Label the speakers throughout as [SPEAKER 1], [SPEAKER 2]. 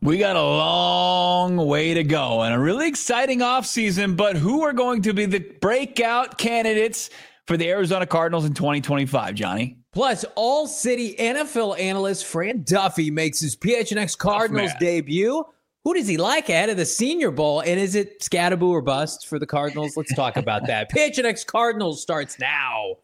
[SPEAKER 1] We got a long way to go and a really exciting offseason, but who are going to be the breakout candidates for the Arizona Cardinals in 2025, Johnny?
[SPEAKER 2] Plus, All-City NFL analyst Fran Duffy makes his PHNX Cardinals debut. Who does he like ahead of the Senior Bowl? And is it Scadaboo or bust for the Cardinals? Let's talk about that. PHNX Cardinals starts now.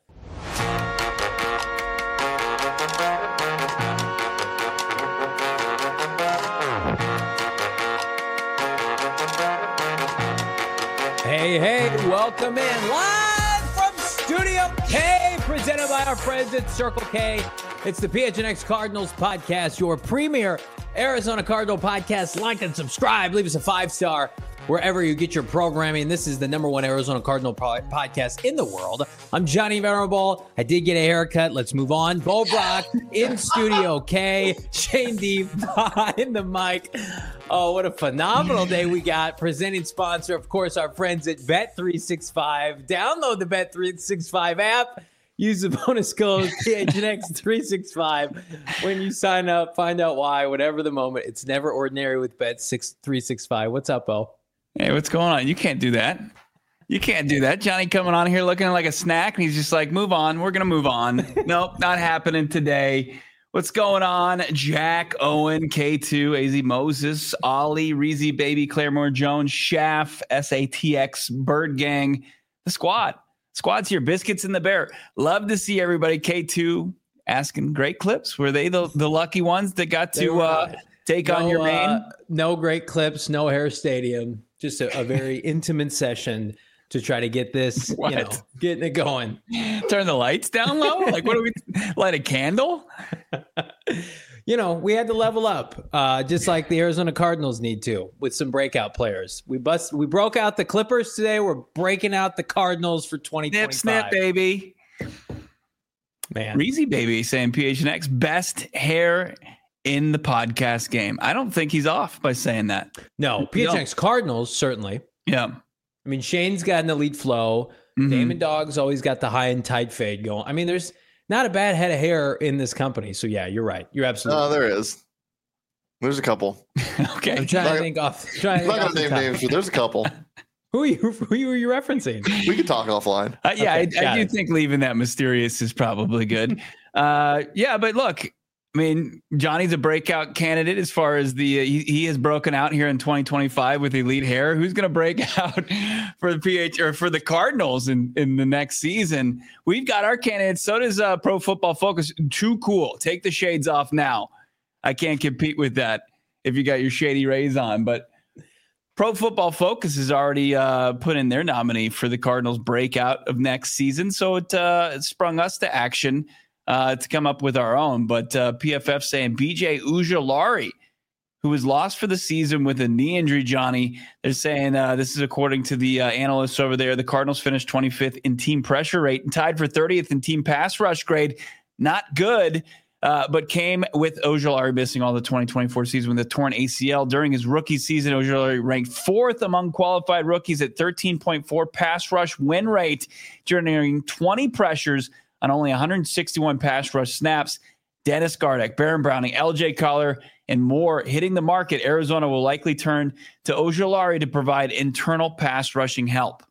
[SPEAKER 2] Hey, welcome in live from Studio K, presented by our friends at Circle K. It's the PHNX Cardinals podcast, your premier Arizona Cardinal podcast. Like and subscribe. Leave us a 5-star wherever you get your programming. This is the #1 Arizona Cardinal podcast in the world. I'm Johnny Venerable. I did get a haircut. Let's move on. Bo Brock in Studio K. Shane D behind the mic. Oh, what a phenomenal day we got. Presenting sponsor, of course, our friends at Bet365. Download the Bet365 app. Use the bonus code PHNX365 when you sign up. Find out why. Whatever the moment, it's never ordinary with Bet365. What's up, Bo?
[SPEAKER 1] Hey, what's going on? You can't do that. You can't do that. Johnny coming on here looking like a snack, and he's just like, move on. We're going to move on. Nope, not happening today. What's going on? Jack, Owen, K2, AZ Moses, Ollie, Reezy Baby, Claremore Jones, Shaft, SATX, Bird Gang, the squad. Squad's here. Biscuits in the Bear. Love to see everybody. K2 asking great clips. Were they the lucky ones that got to take on your main?
[SPEAKER 2] No great clips, no hair stadium. Just a very intimate session to try to get this, getting it going.
[SPEAKER 1] Turn the lights down low? Like, what do we light a candle?
[SPEAKER 2] We had to level up, just like the Arizona Cardinals need to, with some breakout players. We broke out the Clippers today. We're breaking out the Cardinals for 2025.
[SPEAKER 1] Snip, baby.
[SPEAKER 2] Man.
[SPEAKER 1] Reezy Baby saying PHNX best hair in the podcast game. I don't think he's off by saying that.
[SPEAKER 2] No, PHNX Cardinals, certainly.
[SPEAKER 1] Yeah.
[SPEAKER 2] I mean, Shane's got an elite flow. Mm-hmm. Damon Dogg's always got the high and tight fade going. I mean, there's not a bad head of hair in this company. So, yeah, you're right. You're absolutely right.
[SPEAKER 3] There is. There's a couple.
[SPEAKER 1] Okay.
[SPEAKER 2] I'm trying to think off.
[SPEAKER 3] I'm not going to name names, but there's a couple.
[SPEAKER 2] Who are you referencing?
[SPEAKER 3] We can talk offline.
[SPEAKER 1] Yeah, okay, I do think leaving that mysterious is probably good. Yeah, but look, I mean, Johnny's a breakout candidate as far as he has broken out here in 2025 with elite hair. Who's going to break out for the Cardinals in the next season? We've got our candidates. So does Pro Football Focus. Too cool. Take the shades off now. I can't compete with that if you got your shady rays on. But Pro Football Focus has already put in their nominee for the Cardinals breakout of next season. So it sprung us to action to come up with our own. But PFF saying BJ Ojulari, who was lost for the season with a knee injury, Johnny. They're saying this is according to the analysts over there. The Cardinals finished 25th in team pressure rate and tied for 30th in team pass rush grade. Not good, but came with Ojulari missing all the 2024 season with a torn ACL. During his rookie season, Ojulari ranked 4th among qualified rookies at 13.4 pass rush win rate, generating 20 pressures on only 161 pass rush snaps. Dennis Gardeck, Baron Browning, LJ Collar, and more hitting the market. Arizona will likely turn to Ojulari to provide internal pass rushing help.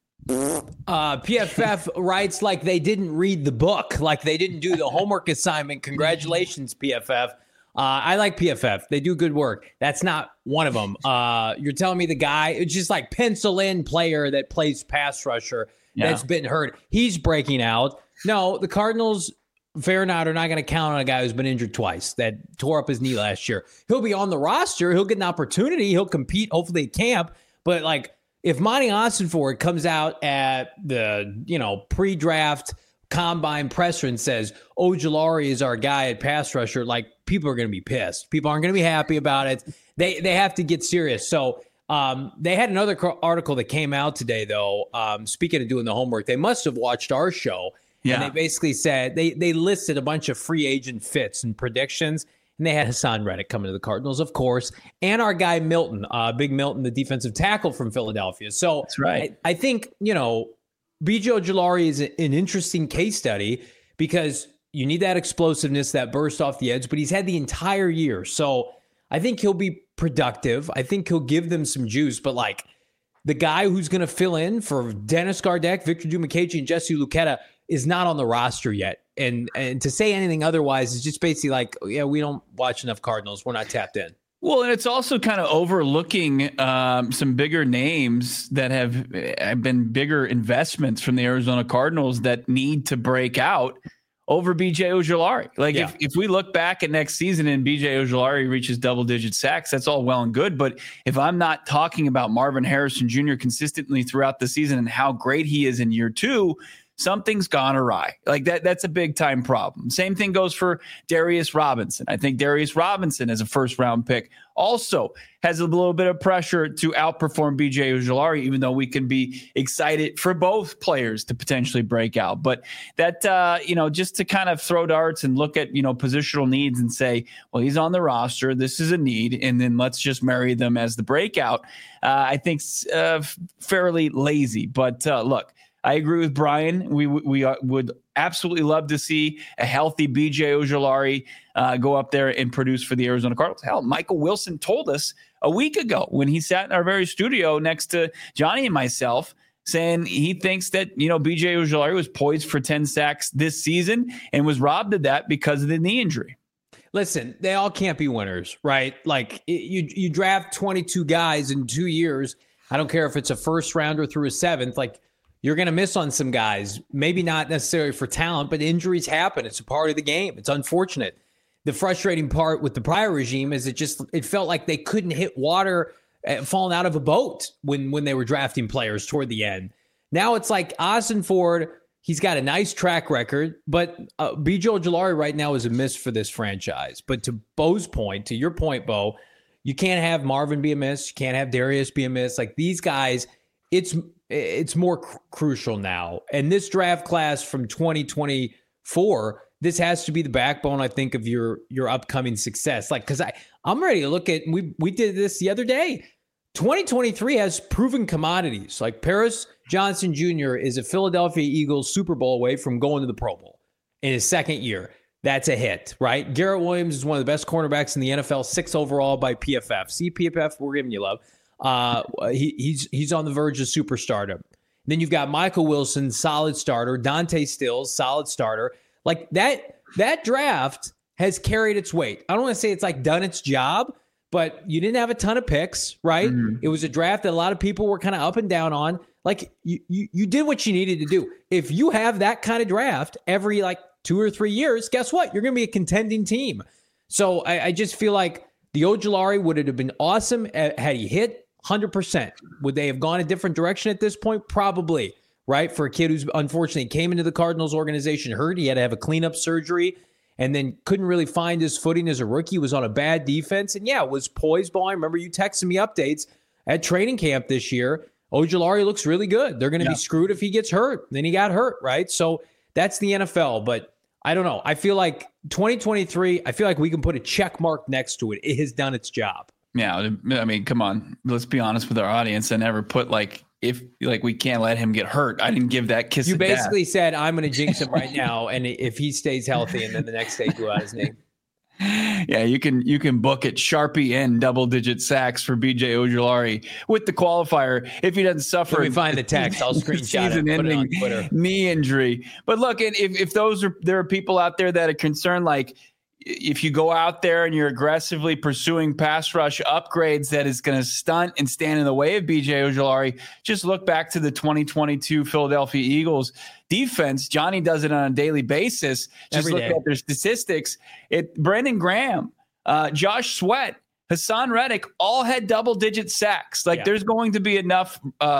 [SPEAKER 2] PFF writes like they didn't read the book, like they didn't do the homework assignment. Congratulations, PFF. I like PFF. They do good work. That's not one of them. You're telling me the guy, it's just like pencil in player that plays pass rusher that's been hurt. He's breaking out. No, the Cardinals, fair or not, are not going to count on a guy who's been injured twice, that tore up his knee last year. He'll be on the roster. He'll get an opportunity. He'll compete, hopefully, at camp. But, like, if Monty Ossenford comes out at the, pre-draft combine presser and says, Ojulari is our guy at pass rusher, like, people are going to be pissed. People aren't going to be happy about it. They have to get serious. So, they had another article that came out today, though. Speaking of doing the homework, they must have watched our show. Yeah. And they basically said they listed a bunch of free agent fits and predictions. And they had Hassan Reddick coming to the Cardinals, of course, and our guy Milton, Big Milton, the defensive tackle from Philadelphia. So
[SPEAKER 1] that's right.
[SPEAKER 2] I think, BJ Ojulari is an interesting case study because you need that explosiveness, that burst off the edge, but he's had the entire year. So I think he'll be productive. I think he'll give them some juice, but like the guy who's going to fill in for Dennis Gardeck, Victor Dimukeje, and Jesse Luketa is not on the roster yet. And to say anything otherwise is just basically like, yeah, we don't watch enough Cardinals. We're not tapped in.
[SPEAKER 1] Well, and it's also kind of overlooking some bigger names that have been bigger investments from the Arizona Cardinals that need to break out over B.J. Ojulari. Like if we look back at next season and B.J. Ojulari reaches double-digit sacks, that's all well and good. But if I'm not talking about Marvin Harrison Jr. consistently throughout the season and how great he is in year 2, something's gone awry. Like that's a big time problem. Same thing goes for Darius Robinson. I think Darius Robinson as a first round pick also has a little bit of pressure to outperform B.J. Ojulari, even though we can be excited for both players to potentially break out. But that, just to kind of throw darts and look at, positional needs and say, well, he's on the roster. This is a need. And then let's just marry them as the breakout. I think fairly lazy. But look, I agree with Brian. We would absolutely love to see a healthy B.J. Ojulari go up there and produce for the Arizona Cardinals. Hell, Michael Wilson told us a week ago when he sat in our very studio next to Johnny and myself, saying he thinks that, B.J. Ojulari was poised for 10 sacks this season and was robbed of that because of the knee injury.
[SPEAKER 2] Listen, they all can't be winners, right? Like you draft 22 guys in 2 years. I don't care if it's a first rounder through a seventh, like, you're going to miss on some guys, maybe not necessarily for talent, but injuries happen. It's a part of the game. It's unfortunate. The frustrating part with the prior regime is it felt like they couldn't hit water falling out of a boat when they were drafting players toward the end. Now it's like Austin Ford, he's got a nice track record, but B.J. Ojulari right now is a miss for this franchise. But to Bo's point, to your point, Bo, you can't have Marvin be a miss. You can't have Darius be a miss. Like these guys, it's more crucial now. And this draft class from 2024, this has to be the backbone, I think, of your upcoming success. Like, because I'm ready to look at, we did this the other day. 2023 has proven commodities. Like Paris Johnson Jr. is a Philadelphia Eagles Super Bowl away from going to the Pro Bowl in his second year. That's a hit, right? Garrett Williams is one of the best cornerbacks in the NFL, 6 overall by PFF. See, PFF, we're giving you love. He's on the verge of superstardom. Then you've got Michael Wilson, solid starter. Dante Stills, solid starter. Like that draft has carried its weight. I don't want to say it's like done its job, but you didn't have a ton of picks, right? Mm-hmm. It was a draft that a lot of people were kind of up and down on. Like you did what you needed to do. If you have that kind of draft every like 2 or 3 years, guess what? You're going to be a contending team. So I just feel like the Ojulari would have been awesome had he hit 100%. Would they have gone a different direction at this point? Probably, right? For a kid who's unfortunately came into the Cardinals organization hurt, he had to have a cleanup surgery and then couldn't really find his footing as a rookie, was on a bad defense, and was poised by. I remember you texting me updates at training camp this year. Ojulari looks really good. They're going to be screwed if he gets hurt. Then he got hurt, right? So that's the NFL, but I don't know. I feel like 2023, I feel like we can put a check mark next to it. It has done its job.
[SPEAKER 1] Yeah, I mean, come on. Let's be honest with our audience. I never put if we can't let him get hurt. I didn't give that kiss.
[SPEAKER 2] You basically said I'm going to jinx him right now, and if he stays healthy, and then the next day blew out his name.
[SPEAKER 1] Yeah, you can book it Sharpie and double-digit sacks for B.J. Ojulari with the qualifier if he doesn't suffer.
[SPEAKER 2] Let me find the text. I'll screenshot it. Put it on Twitter.
[SPEAKER 1] Knee injury. But look, if there are people out there that are concerned, like, if you go out there and you're aggressively pursuing pass rush upgrades that is going to stunt and stand in the way of B.J. Ojulari, just look back to the 2022 Philadelphia Eagles defense. Johnny does it on a daily basis. Just look at their statistics. Brandon Graham, Josh Sweat, Hassan Reddick all had double-digit sacks. There's going to be enough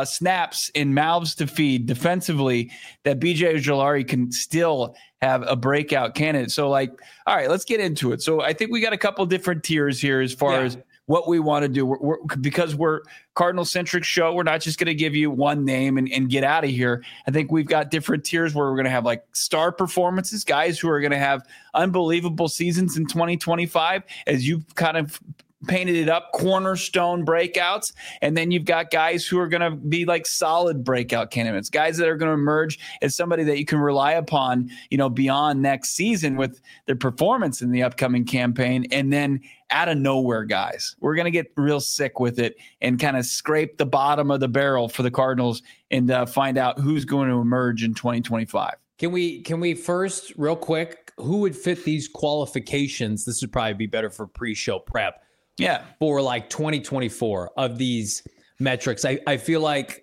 [SPEAKER 1] snaps and mouths to feed defensively that B.J. Ojulari can still have a breakout candidate. So, all right, let's get into it. So I think we got a couple different tiers here as far as what we want to do. Because we're Cardinal-centric show, we're not just going to give you one name and get out of here. I think we've got different tiers where we're going to have star performances, guys who are going to have unbelievable seasons in 2025, as you've kind of painted it up, cornerstone breakouts. And then you've got guys who are going to be like solid breakout candidates, guys that are going to emerge as somebody that you can rely upon, beyond next season with their performance in the upcoming campaign. And then out of nowhere guys, we're going to get real sick with it and kind of scrape the bottom of the barrel for the Cardinals and find out who's going to emerge in 2025.
[SPEAKER 2] Can we first, real quick, who would fit these qualifications? This would probably be better for pre-show prep.
[SPEAKER 1] Yeah.
[SPEAKER 2] For like 2024 of these metrics. I feel like,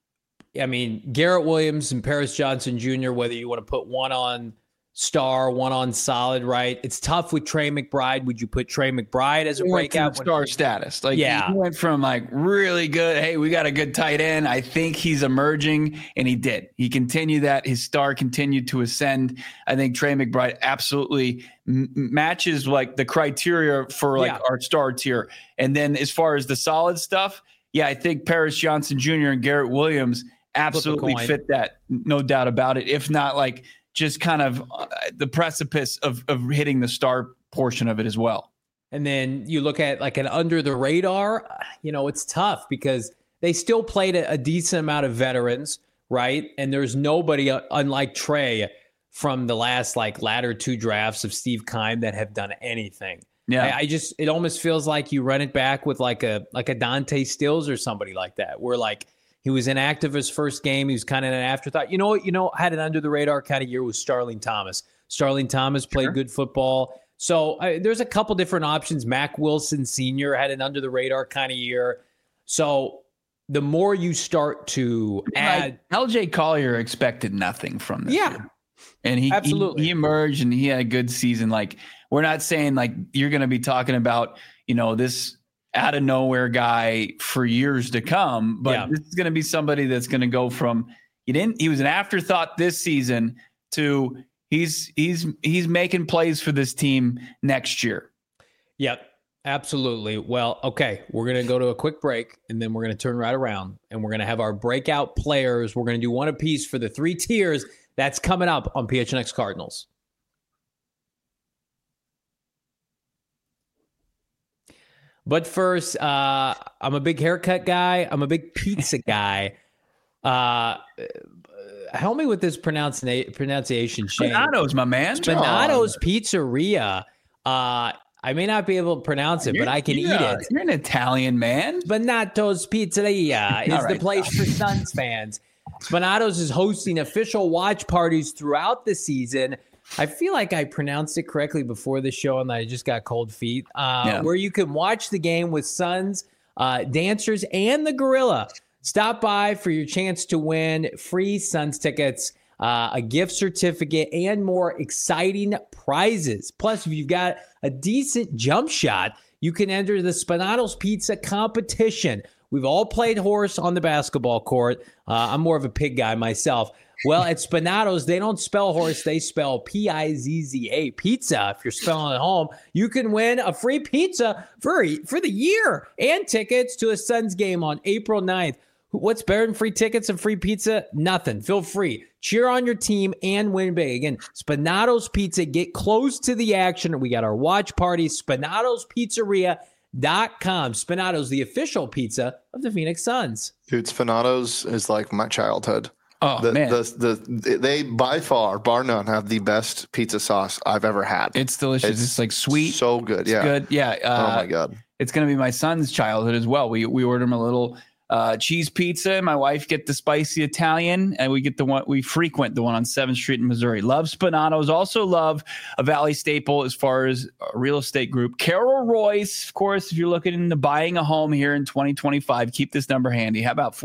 [SPEAKER 2] Garrett Williams and Paris Johnson Jr., whether you want to put one on star, one on solid, right? It's tough with Trey McBride. Would you put Trey McBride as a breakout?
[SPEAKER 1] Star status. Like,
[SPEAKER 2] yeah.
[SPEAKER 1] He went from like really good, hey, we got a good tight end, I think he's emerging, and he did. He continued that. His star continued to ascend. I think Trey McBride absolutely matches like the criteria for like our star tier. And then as far as the solid stuff, I think Paris Johnson Jr. and Garrett Williams absolutely fit that, no doubt about it. If not like just kind of the precipice of hitting the star portion of it as well.
[SPEAKER 2] And then you look at like an under the radar, it's tough because they still played a decent amount of veterans, right? And there's nobody unlike Trey from the last like latter two drafts of Steve Keim that have done anything. Yeah. It almost feels like you run it back with like a Dante Stills or somebody like that, where like he was inactive his first game. He was kind of an afterthought. Had an under the radar kind of year with Starling Thomas. Starling Thomas played good football. So there's a couple different options. Mac Wilson Sr. had an under the radar kind of year. So the more you start to add,
[SPEAKER 1] LJ Collier expected nothing from this year. And
[SPEAKER 2] absolutely
[SPEAKER 1] he emerged and he had a good season. Like, we're not saying like you're going to be talking about, this out of nowhere guy for years to come, but this is going to be somebody that's going to go from he was an afterthought this season to he's making plays for this team next year.
[SPEAKER 2] Yep, absolutely. Well, okay, we're going to go to a quick break and then we're going to turn right around and we're going to have our breakout players. We're going to do one apiece for the three tiers. That's coming up on PHNX Cardinals. But first, I'm a big haircut guy. I'm a big pizza guy. Help me with this pronunciation, Shane.
[SPEAKER 1] Spinato's, my man.
[SPEAKER 2] Spinato's Pizzeria. I may not be able to pronounce it, but I can eat it.
[SPEAKER 1] You're an Italian man.
[SPEAKER 2] Spinato's Pizzeria is the place for Suns fans. Spinato's is hosting official watch parties throughout the season. I feel like I pronounced it correctly before the show and I just got cold feet. Where you can watch the game with Suns, dancers, and the Gorilla. Stop by for your chance to win free Suns tickets, a gift certificate, and more exciting prizes. Plus, if you've got a decent jump shot, you can enter the Spinato's Pizza competition. We've all played horse on the basketball court. I'm more of a pig guy myself. Well, at Spinato's, they don't spell horse. They spell Pizza, pizza. If you're spelling at home, you can win a free pizza for the year and tickets to a Suns game on April 9th. What's better than free tickets and free pizza? Nothing. Feel free. Cheer on your team and win big. Again, Spinato's Pizza. Get close to the action. We got our watch party, Spinato'sPizzeria.com. Spinato's, the official pizza of the Phoenix Suns.
[SPEAKER 3] Dude, Spinato's is like my childhood.
[SPEAKER 1] Oh, man.
[SPEAKER 3] They by far, bar none, have the best pizza sauce I've ever had.
[SPEAKER 1] It's delicious. It's like sweet.
[SPEAKER 3] So good. Yeah.
[SPEAKER 1] Good. Yeah.
[SPEAKER 3] Oh my God.
[SPEAKER 1] It's going to be my son's childhood as well. We ordered him a little cheese pizza. My wife get the spicy Italian, and we get the one, we frequent the one on 7th Street in Missouri. Love Spinato's. Also love a Valley staple as far as a real estate group. Carol Royce, of course, if you're looking into buying a home here in 2025, keep this number handy. How about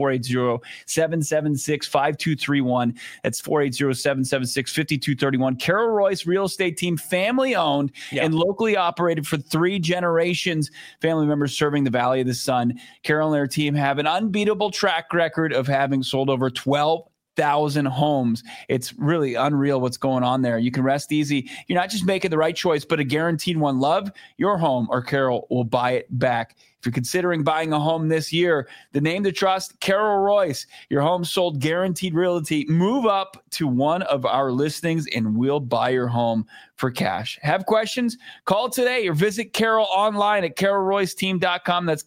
[SPEAKER 1] 480-776-5231? That's 480-776-5231. Carol Royce Real Estate Team, family owned and locally operated for 3 generations. Family members serving the Valley of the Sun. Carol and their team have an unbeatable track record of having sold over 12,000 100,000 homes. It's really unreal what's going on there. You can rest easy. You're not just making the right choice, but a guaranteed one. Love your home or Carol will buy it back. If you're considering buying a home this year, the name to trust, Carol Royce. Your home sold guaranteed realty. Move up to one of our listings and we'll buy your home for cash. Have questions? Call today or visit Carol online at carolroyceteam.com. That's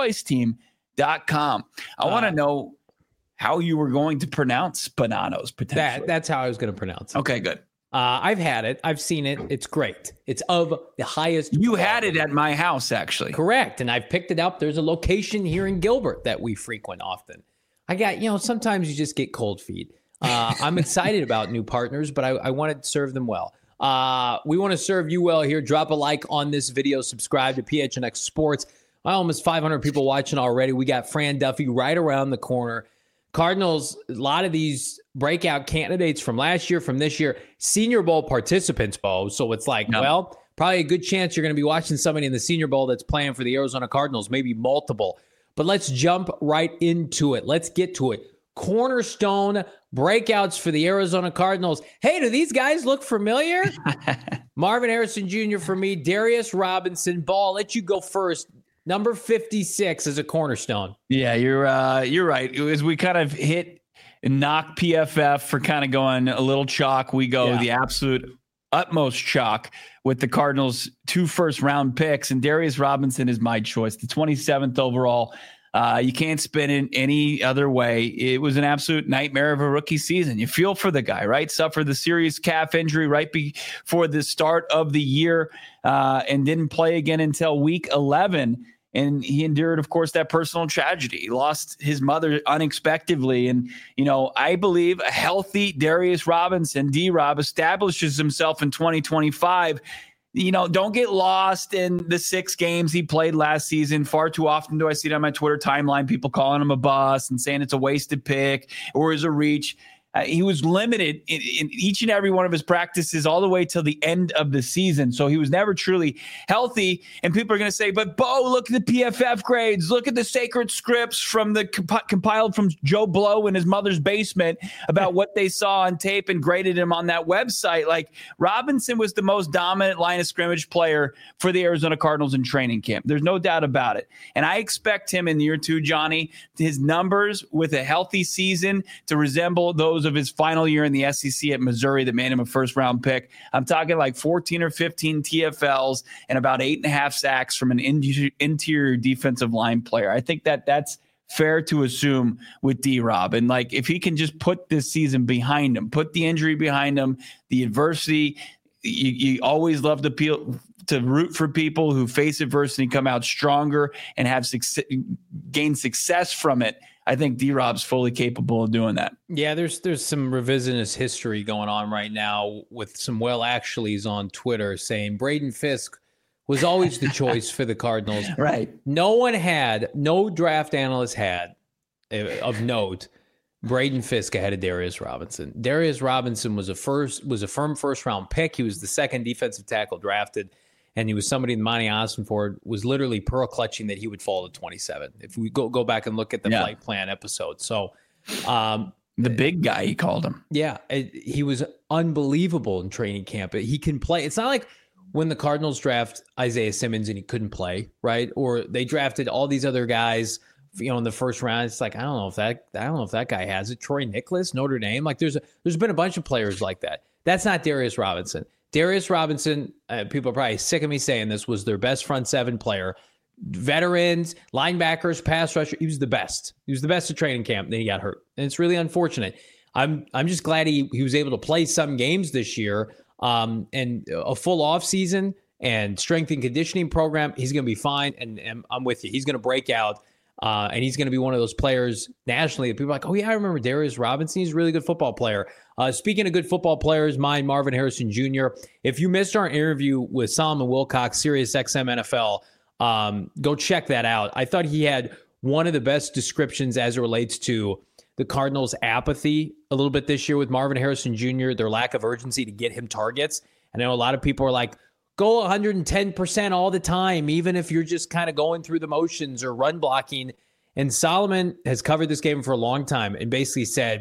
[SPEAKER 1] carolroyceteam.com. I want to know how you were going to pronounce Bonanos potentially.
[SPEAKER 2] That's how I was going to pronounce it.
[SPEAKER 1] Okay, good.
[SPEAKER 2] I've had it. I've seen it. It's great. It's of the highest.
[SPEAKER 1] You had it at my house, actually.
[SPEAKER 2] Correct. And I've picked it up. There's a location here in Gilbert that we frequent often. I got, sometimes you just get cold feet. I'm excited about new partners, but I want to serve them well. We want to serve you well here. Drop a like on this video. Subscribe to PHNX Sports. Almost 500 people watching already. We got Fran Duffy right around the corner. Cardinals, a lot of these breakout candidates from last year, from this year, Senior Bowl participants, Bo. So it's like, well, probably a good chance you're going to be watching somebody in the Senior Bowl that's playing for the Arizona Cardinals, maybe multiple. But let's jump right into it. Let's get to it. Cornerstone breakouts for the Arizona Cardinals. Hey, do these guys look familiar? Marvin Harrison Jr. for me, Darius Robinson. Bo, I'll let you go first. Number 56 is a cornerstone.
[SPEAKER 1] Yeah, you're right. As we kind of hit and knock PFF for kind of going a little chalk, we go the absolute utmost chalk with the Cardinals' 2 first-round picks, and Darius Robinson is my choice, the 27th overall. You can't spin it any other way. It was an absolute nightmare of a rookie season. You feel for the guy, right? Suffered the serious calf injury right before the start of the year and didn't play again until week 11. And he endured, of course, that personal tragedy. He lost his mother unexpectedly. And, I believe a healthy Darius Robinson, D-Rob, establishes himself in 2025. Don't get lost in the 6 games he played last season. Far too often do I see it on my Twitter timeline, people calling him a bust and saying it's a wasted pick or is a reach. He was limited in each and every one of his practices all the way till the end of the season. So he was never truly healthy. And people are going to say, but Bo, look at the PFF grades. Look at the sacred scripts from the compiled from Joe Blow in his mother's basement about what they saw on tape and graded him on that website. Like, Robinson was the most dominant line of scrimmage player for the Arizona Cardinals in training camp. There's no doubt about it. And I expect him in year 2, Johnny, his numbers with a healthy season to resemble those of his final year in the SEC at Missouri that made him a first-round pick. I'm talking like 14 or 15 TFLs and about 8.5 sacks from an interior defensive line player. I think that's fair to assume with D-Rob. And like, if he can just put this season behind him, put the injury behind him, the adversity, you always love to root for people who face adversity, come out stronger, and have gain success from it. I think D-Rob's fully capable of doing that.
[SPEAKER 2] Yeah, there's some revisionist history going on right now with some actuallys on Twitter saying Braden Fisk was always the choice for the Cardinals.
[SPEAKER 1] Right.
[SPEAKER 2] No draft analyst had, of note, Braden Fisk ahead of Darius Robinson. Darius Robinson was a firm first-round pick. He was the second defensive tackle drafted. And he was somebody Monty Ossenford was literally pearl clutching that he would fall to 27. If we go back and look at the flight plan episode. So
[SPEAKER 1] the big guy, he called him.
[SPEAKER 2] Yeah, he was unbelievable in training camp. He can play. It's not like when the Cardinals draft Isaiah Simmons and he couldn't play, right? Or they drafted all these other guys, in the first round. It's like, I don't know if that guy has it. Troy Nicholas, Notre Dame. Like there's been a bunch of players like that. That's not Darius Robinson. Darius Robinson, people are probably sick of me saying this, was their best front 7 player. Veterans, linebackers, pass rusher. He was the best. He was the best at training camp. Then he got hurt. And it's really unfortunate. I'm just glad he was able to play some games this year. And a full off season and strength and conditioning program, he's going to be fine. And I'm with you. He's going to break out. And he's going to be one of those players nationally that people are like, oh, yeah, I remember Darius Robinson. He's a really good football player. Speaking of good football players, mine, Marvin Harrison Jr. If you missed our interview with Solomon Wilcox, Sirius XM NFL, go check that out. I thought he had one of the best descriptions as it relates to the Cardinals' apathy a little bit this year with Marvin Harrison Jr., their lack of urgency to get him targets. I know a lot of people are like, go 110% all the time, even if you're just kind of going through the motions or run blocking. And Solomon has covered this game for a long time and basically said,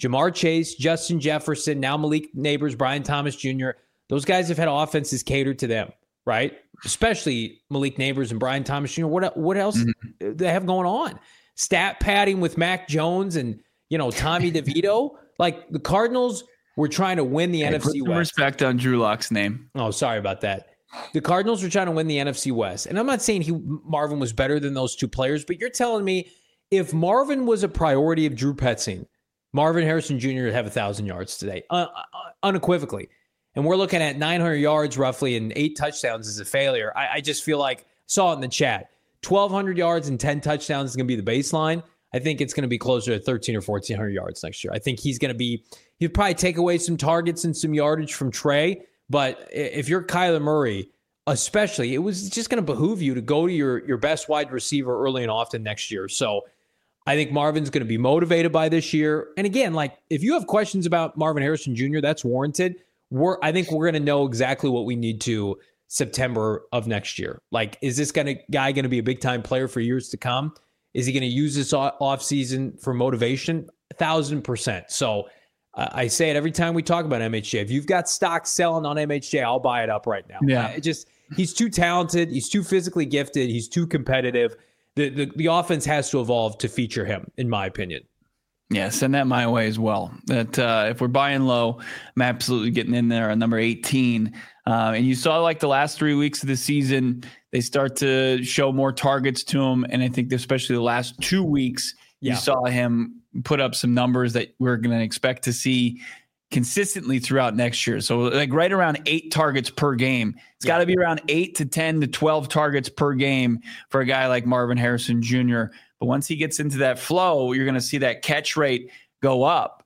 [SPEAKER 2] Jamar Chase, Justin Jefferson, now Malik Neighbors, Brian Thomas Jr., those guys have had offenses catered to them, right? Especially Malik Neighbors and Brian Thomas Jr. What else they have going on? Stat padding with Mac Jones and, Tommy DeVito. Like, the Cardinals were trying to win the NFC
[SPEAKER 1] put some
[SPEAKER 2] West.
[SPEAKER 1] Respect on Drew Lock's name.
[SPEAKER 2] Oh, sorry about that. The Cardinals were trying to win the NFC West. And I'm not saying Marvin was better than those two players, but you're telling me if Marvin was a priority of Drew Petzing, Marvin Harrison Jr. would have 1,000 yards today, unequivocally. And we're looking at 900 yards roughly and 8 touchdowns as a failure. I just feel like, saw it in the chat, 1,200 yards and 10 touchdowns is going to be the baseline. I think it's going to be closer to 1,300 or 1,400 yards next year. I think he'll probably take away some targets and some yardage from Trey. But if you're Kyler Murray, especially, it was just going to behoove you to go to your best wide receiver early and often next year. So I think Marvin's going to be motivated by this year. And again, like, if you have questions about Marvin Harrison Jr., that's warranted. I think we're going to know exactly what we need to September of next year. Like, is this guy going to be a big-time player for years to come? Is he going to use this offseason for motivation? 1,000%. So I say it every time we talk about MHJ. If you've got stock selling on MHJ, I'll buy it up right now.
[SPEAKER 1] Yeah.
[SPEAKER 2] He's too talented. He's too physically gifted. He's too competitive. The offense has to evolve to feature him, in my opinion.
[SPEAKER 1] Yeah, send that my way as well. That if we're buying low, I'm absolutely getting in there on number 18. And you saw, like, the last 3 weeks of the season, they start to show more targets to him. And I think especially the last 2 weeks, you saw him put up some numbers that we're going to expect to see consistently throughout next year. So, like, right around 8 targets per game. It's got to be around 8 to 10 to 12 targets per game for a guy like Marvin Harrison Jr. But once he gets into that flow, you're going to see that catch rate go up.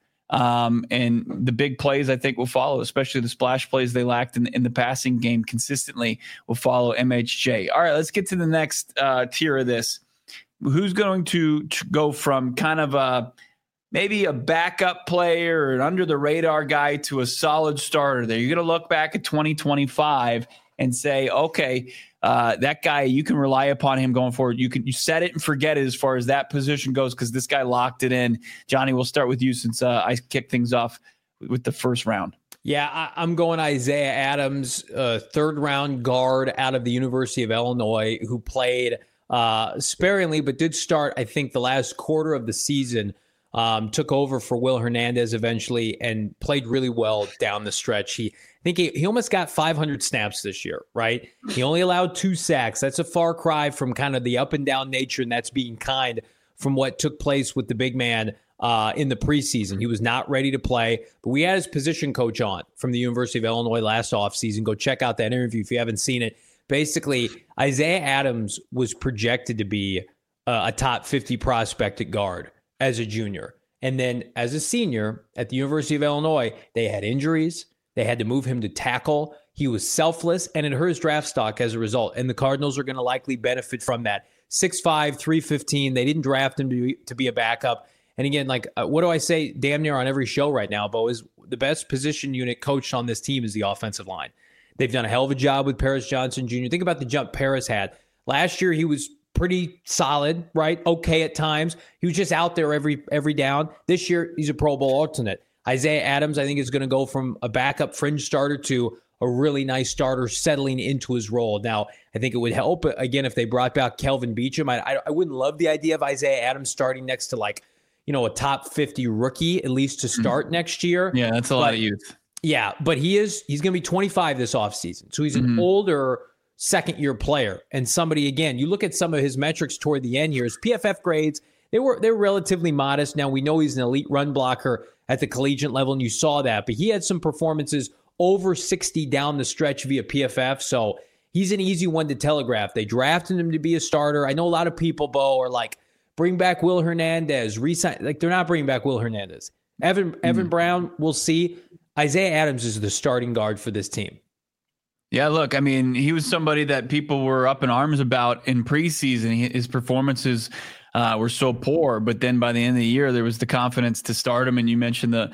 [SPEAKER 1] And the big plays, I think, will follow, especially the splash plays they lacked in the passing game consistently will follow MHJ. All right, let's get to the next tier of this. Who's going to go from kind of maybe a backup player or an under-the-radar guy to a solid starter there? You're going to look back at 2025 and say, okay, that guy, you can rely upon him going forward. You set it and forget it as far as that position goes because this guy locked it in. Johnny, we'll start with you since I kicked things off with the first round.
[SPEAKER 2] Yeah, I'm going Isaiah Adams, third-round guard out of the University of Illinois, who played sparingly but did start, I think, the last quarter of the season. Took over for Will Hernandez eventually and played really well down the stretch. He almost got 500 snaps this year, right? He only allowed 2 sacks. That's a far cry from kind of the up and down nature, and that's being kind from what took place with the big man in the preseason. He was not ready to play, but we had his position coach on from the University of Illinois last offseason. Go check out that interview if you haven't seen it. Basically, Isaiah Adams was projected to be a top 50 prospect at guard as a junior. And then as a senior at the University of Illinois, they had injuries. They had to move him to tackle. He was selfless, and it hurt his draft stock as a result. And the Cardinals are going to likely benefit from that. 6'5", 315. They didn't draft him to be a backup. And again, like, what do I say damn near on every show right now, Bo, is the best position unit coached on this team is the offensive line. They've done a hell of a job with Paris Johnson Jr. Think about the jump Paris had. Last year, he was pretty solid, right? Okay at times. He was just out there every down. This year, he's a Pro Bowl alternate. Isaiah Adams, I think, is going to go from a backup fringe starter to a really nice starter settling into his role. Now, I think it would help, again, if they brought back Kelvin Beachum. I wouldn't love the idea of Isaiah Adams starting next to, like, a top 50 rookie, at least to start next year.
[SPEAKER 1] Yeah, that's a lot of youth.
[SPEAKER 2] Yeah, but he's going to be 25 this offseason. So he's an older second-year player. And somebody, again, you look at some of his metrics toward the end here, his PFF grades, they're relatively modest. Now, we know he's an elite run blocker at the collegiate level, and you saw that. But he had some performances over 60 down the stretch via PFF, so he's an easy one to telegraph. They drafted him to be a starter. I know a lot of people, Bo, are like, bring back Will Hernandez, resign. Like, they're not bringing back Will Hernandez. Evan Brown, we'll see. Isaiah Adams is the starting guard for this team.
[SPEAKER 1] Yeah, look, I mean, he was somebody that people were up in arms about in preseason. His performances were so poor, but then by the end of the year, there was the confidence to start him. And you mentioned the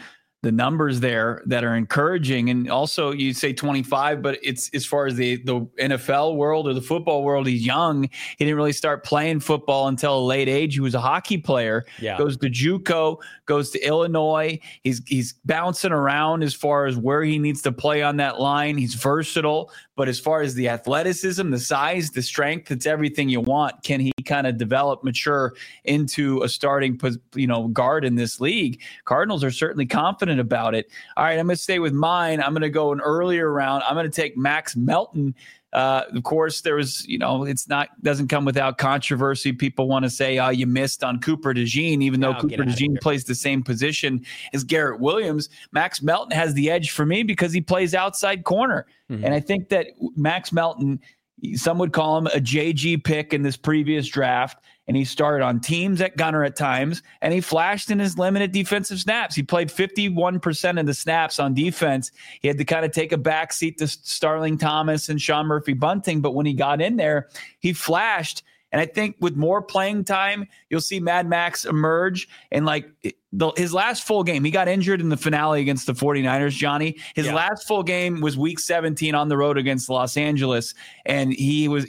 [SPEAKER 1] the numbers there that are encouraging. And also you say 25, but it's as far as the NFL world or the football world, he's young. He didn't really start playing football until a late age. He was a hockey player, goes to JUCO, goes to Illinois. He's bouncing around as far as where he needs to play on that line. He's versatile, but as far as the athleticism, the size, the strength, it's everything you want. Can he kind of develop, mature into a starting, guard in this league? Cardinals are certainly confident about it. All right, I'm going to stay with mine. I'm going to go an earlier round. I'm going to take Max Melton. Of course, there was, doesn't come without controversy. People want to say, oh, you missed on Cooper DeJean, even though Cooper DeJean plays the same position as Garrett Williams. Max Melton has the edge for me because he plays outside corner. Mm-hmm. And I think that Max Melton, some would call him a JG pick in this previous draft. And he started on teams at gunner at times, and he flashed in his limited defensive snaps. He played 51% of the snaps on defense. He had to kind of take a backseat to Starling Thomas and Sean Murphy-Bunting, but when he got in there, he flashed. And I think with more playing time, you'll see Mad Max emerge. And his last full game, he got injured in the finale against the 49ers, Johnny. His last full game was week 17 on the road against Los Angeles. And he was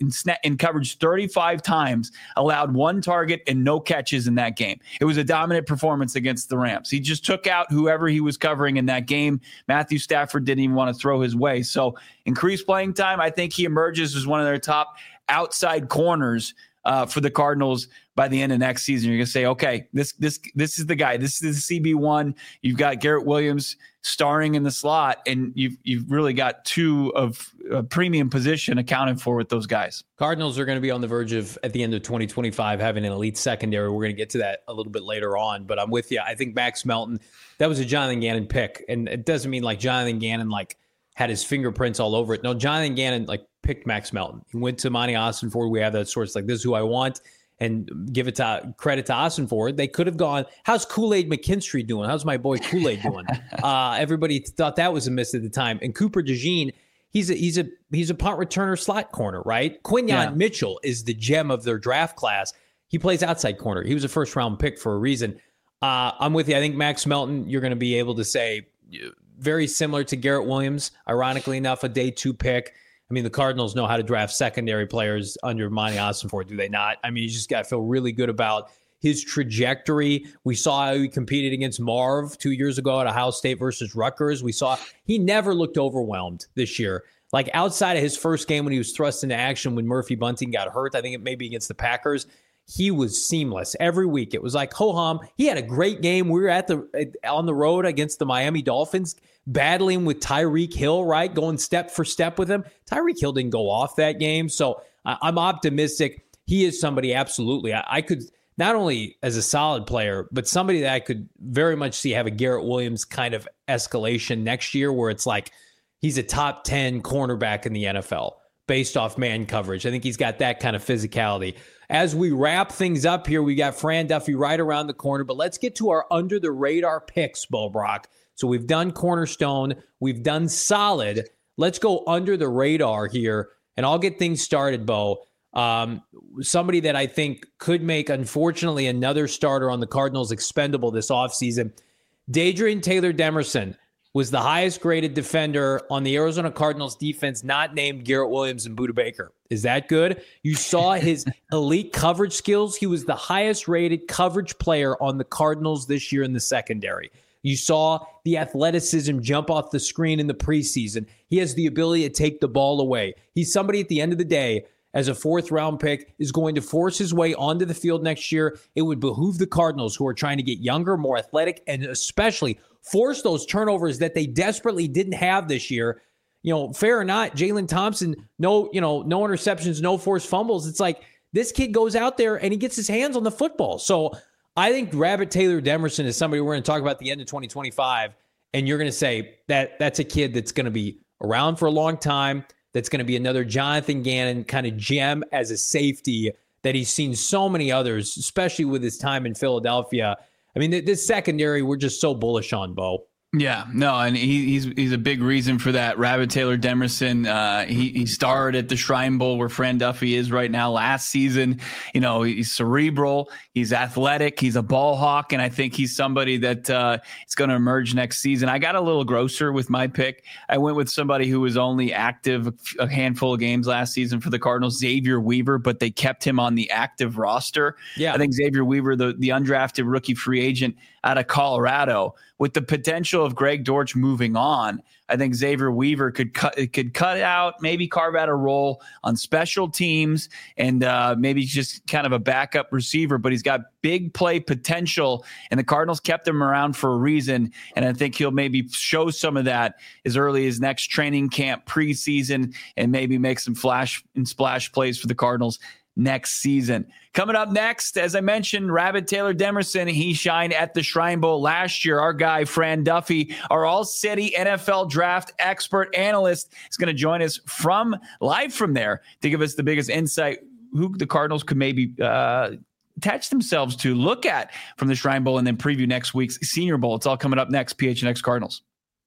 [SPEAKER 1] in coverage 35 times, allowed one target and no catches in that game. It was a dominant performance against the Rams. He just took out whoever he was covering in that game. Matthew Stafford didn't even want to throw his way. So increased playing time. I think he emerges as one of their top outside corners for the Cardinals by the end of next season. You're going to say, okay, this is the guy. This is the CB1. You've got Garrett Williams starring in the slot, and you've really got two of a premium position accounted for with those guys.
[SPEAKER 2] Cardinals are going to be on the verge of, at the end of 2025, having an elite secondary. We're going to get to that a little bit later on, but I'm with you. I think Max Melton, that was a Jonathan Gannon pick, and it doesn't mean Jonathan Gannon had his fingerprints all over it. No, Jonathan Gannon picked Max Melton. He went to Monty Ossenford. We have that source this is who I want, and give it to credit to Ossenford. They could have gone, how's Kool-Aid McKinstry doing? How's my boy Kool-Aid doing? Everybody thought that was a miss at the time. And Cooper DeJean, he's a punt returner slot corner, right? Quinyon Mitchell is the gem of their draft class. He plays outside corner. He was a first round pick for a reason. I'm with you. I think Max Melton, you're going to be able to say very similar to Garrett Williams, ironically enough, a day 2 pick. I mean, the Cardinals know how to draft secondary players under Monty Ossenford, do they not? I mean, you just got to feel really good about his trajectory. We saw how he competed against Marv 2 years ago at Ohio State versus Rutgers. We saw he never looked overwhelmed this year. Outside of his first game when he was thrust into action when Murphy-Bunting got hurt, I think it may be against the Packers, he was seamless every week. It was like ho-hum. He had a great game. We were on the road against the Miami Dolphins, battling with Tyreek Hill, right? Going step for step with him. Tyreek Hill didn't go off that game. So I'm optimistic. He is somebody, absolutely. I could, not only as a solid player, but somebody that I could very much see have a Garrett Williams kind of escalation next year where it's he's a top 10 cornerback in the NFL based off man coverage. I think he's got that kind of physicality. As we wrap things up here, we got Fran Duffy right around the corner, but let's get to our under-the-radar picks, Bo Brock. So we've done Cornerstone. We've done Solid. Let's go under the radar here, and I'll get things started, Bo. Somebody that I think could make, unfortunately, another starter on the Cardinals expendable this offseason. Dadrian Taylor Demerson was the highest graded defender on the Arizona Cardinals defense, not named Garrett Williams and Budda Baker. Is that good? You saw his elite coverage skills. He was the highest rated coverage player on the Cardinals this year in the secondary. You saw the athleticism jump off the screen in the preseason. He has the ability to take the ball away. He's somebody at the end of the day, as a 4th round pick, is going to force his way onto the field next year. It would behoove the Cardinals, who are trying to get younger, more athletic, and especially force those turnovers that they desperately didn't have this year. Fair or not, Jalen Thompson, no interceptions, no forced fumbles. It's this kid goes out there and he gets his hands on the football. So I think Rabbit Taylor Demerson is somebody we're going to talk about at the end of 2025. And you're going to say that that's a kid that's going to be around for a long time. That's going to be another Jonathan Gannon kind of gem as a safety that he's seen so many others, especially with his time in Philadelphia. I mean, this secondary, we're just so bullish on, Bo.
[SPEAKER 1] Yeah, no, and he's a big reason for that. Rabbit Taylor Demerson, he starred at the Shrine Bowl where Fran Duffy is right now. Last season, he's cerebral, he's athletic, he's a ball hawk, and I think he's somebody that is going to emerge next season. I got a little grosser with my pick. I went with somebody who was only active a handful of games last season for the Cardinals, Xavier Weaver, but they kept him on the active roster. Yeah, I think Xavier Weaver, the undrafted rookie free agent out of Colorado, with the potential of Greg Dortch moving on, I think Xavier Weaver could cut out, maybe carve out a role on special teams, and maybe just kind of a backup receiver. But he's got big play potential, and the Cardinals kept him around for a reason. And I think he'll maybe show some of that as early as next training camp, preseason, and maybe make some flash and splash plays for the Cardinals next season. Coming up next, as I mentioned, Rabbit Taylor Demerson, he shined at the Shrine Bowl last year. Our guy, Fran Duffy, our all-city NFL draft expert analyst, is going to join us live from there to give us the biggest insight who the Cardinals could maybe attach themselves to, look at from the Shrine Bowl, and then preview next week's Senior Bowl. It's all coming up next, PHNX Cardinals.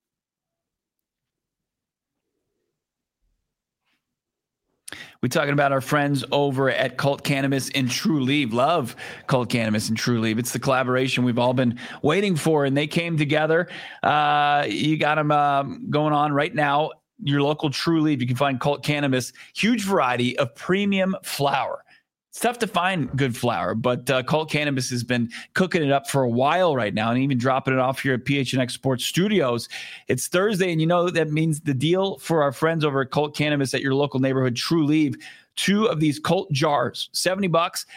[SPEAKER 1] We're talking about our friends over at Cult Cannabis and Trulieve. Love Cult Cannabis and Trulieve. It's the collaboration we've all been waiting for, and they came together. You got them going on right now. Your local Trulieve, you can find Cult Cannabis, huge variety of premium flower. It's tough to find good flower, but Cult Cannabis has been cooking it up for a while right now, and even dropping it off here at PHNX Sports Studios. It's Thursday, and that means the deal for our friends over at Cult Cannabis at your local neighborhood Trulieve. 2 of these Cult jars, $70,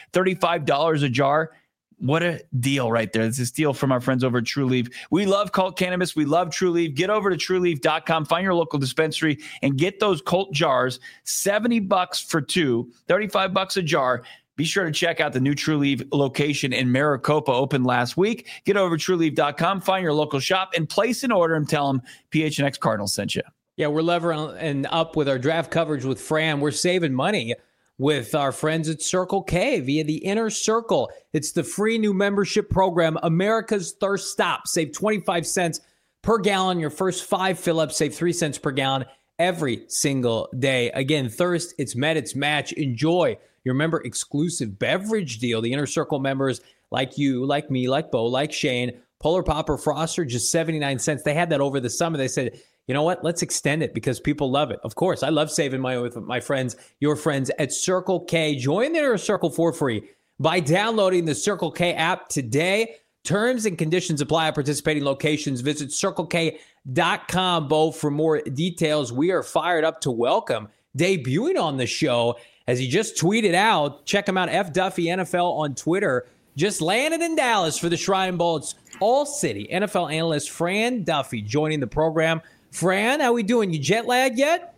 [SPEAKER 1] $35 a jar. What a deal right there. This is a deal from our friends over at Trulieve. We love Cult Cannabis. We love Trulieve. Get over to Trulieve.com, find your local dispensary, and get those Cult jars. $70 for 2, $35 a jar. Be sure to check out the new Trulieve location in Maricopa, opened last week. Get over to Trulieve.com, find your local shop, and place an order and tell them PHNX Cardinals sent you.
[SPEAKER 2] Yeah, we're levering up with our draft coverage with Fran. We're saving money with our friends at Circle K via the Inner Circle. It's the free new membership program, America's Thirst Stop. Save 25 cents per gallon. Your first 5 fill-ups, save 3 cents per gallon every single day. Again, thirst, it's met, it's match. Enjoy your member exclusive beverage deal. The Inner Circle members like you, like me, like Bo, like Shane, Polar Pop or Froster, just 79 cents. They had that over the summer. They said, you know what? Let's extend it because people love it. Of course, I love saving money with my friends, your friends at Circle K. Join the Inner Circle for free by downloading the Circle K app today. Terms and conditions apply at participating locations. Visit CircleK.com, Bo, for more details. We are fired up to welcome, debuting on the show, as he just tweeted out. Check him out, F Duffy NFL on Twitter. Just landed in Dallas for the Shrine Bowl. It's all-city NFL analyst Fran Duffy joining the program. Fran, how we doing? You jet lagged yet?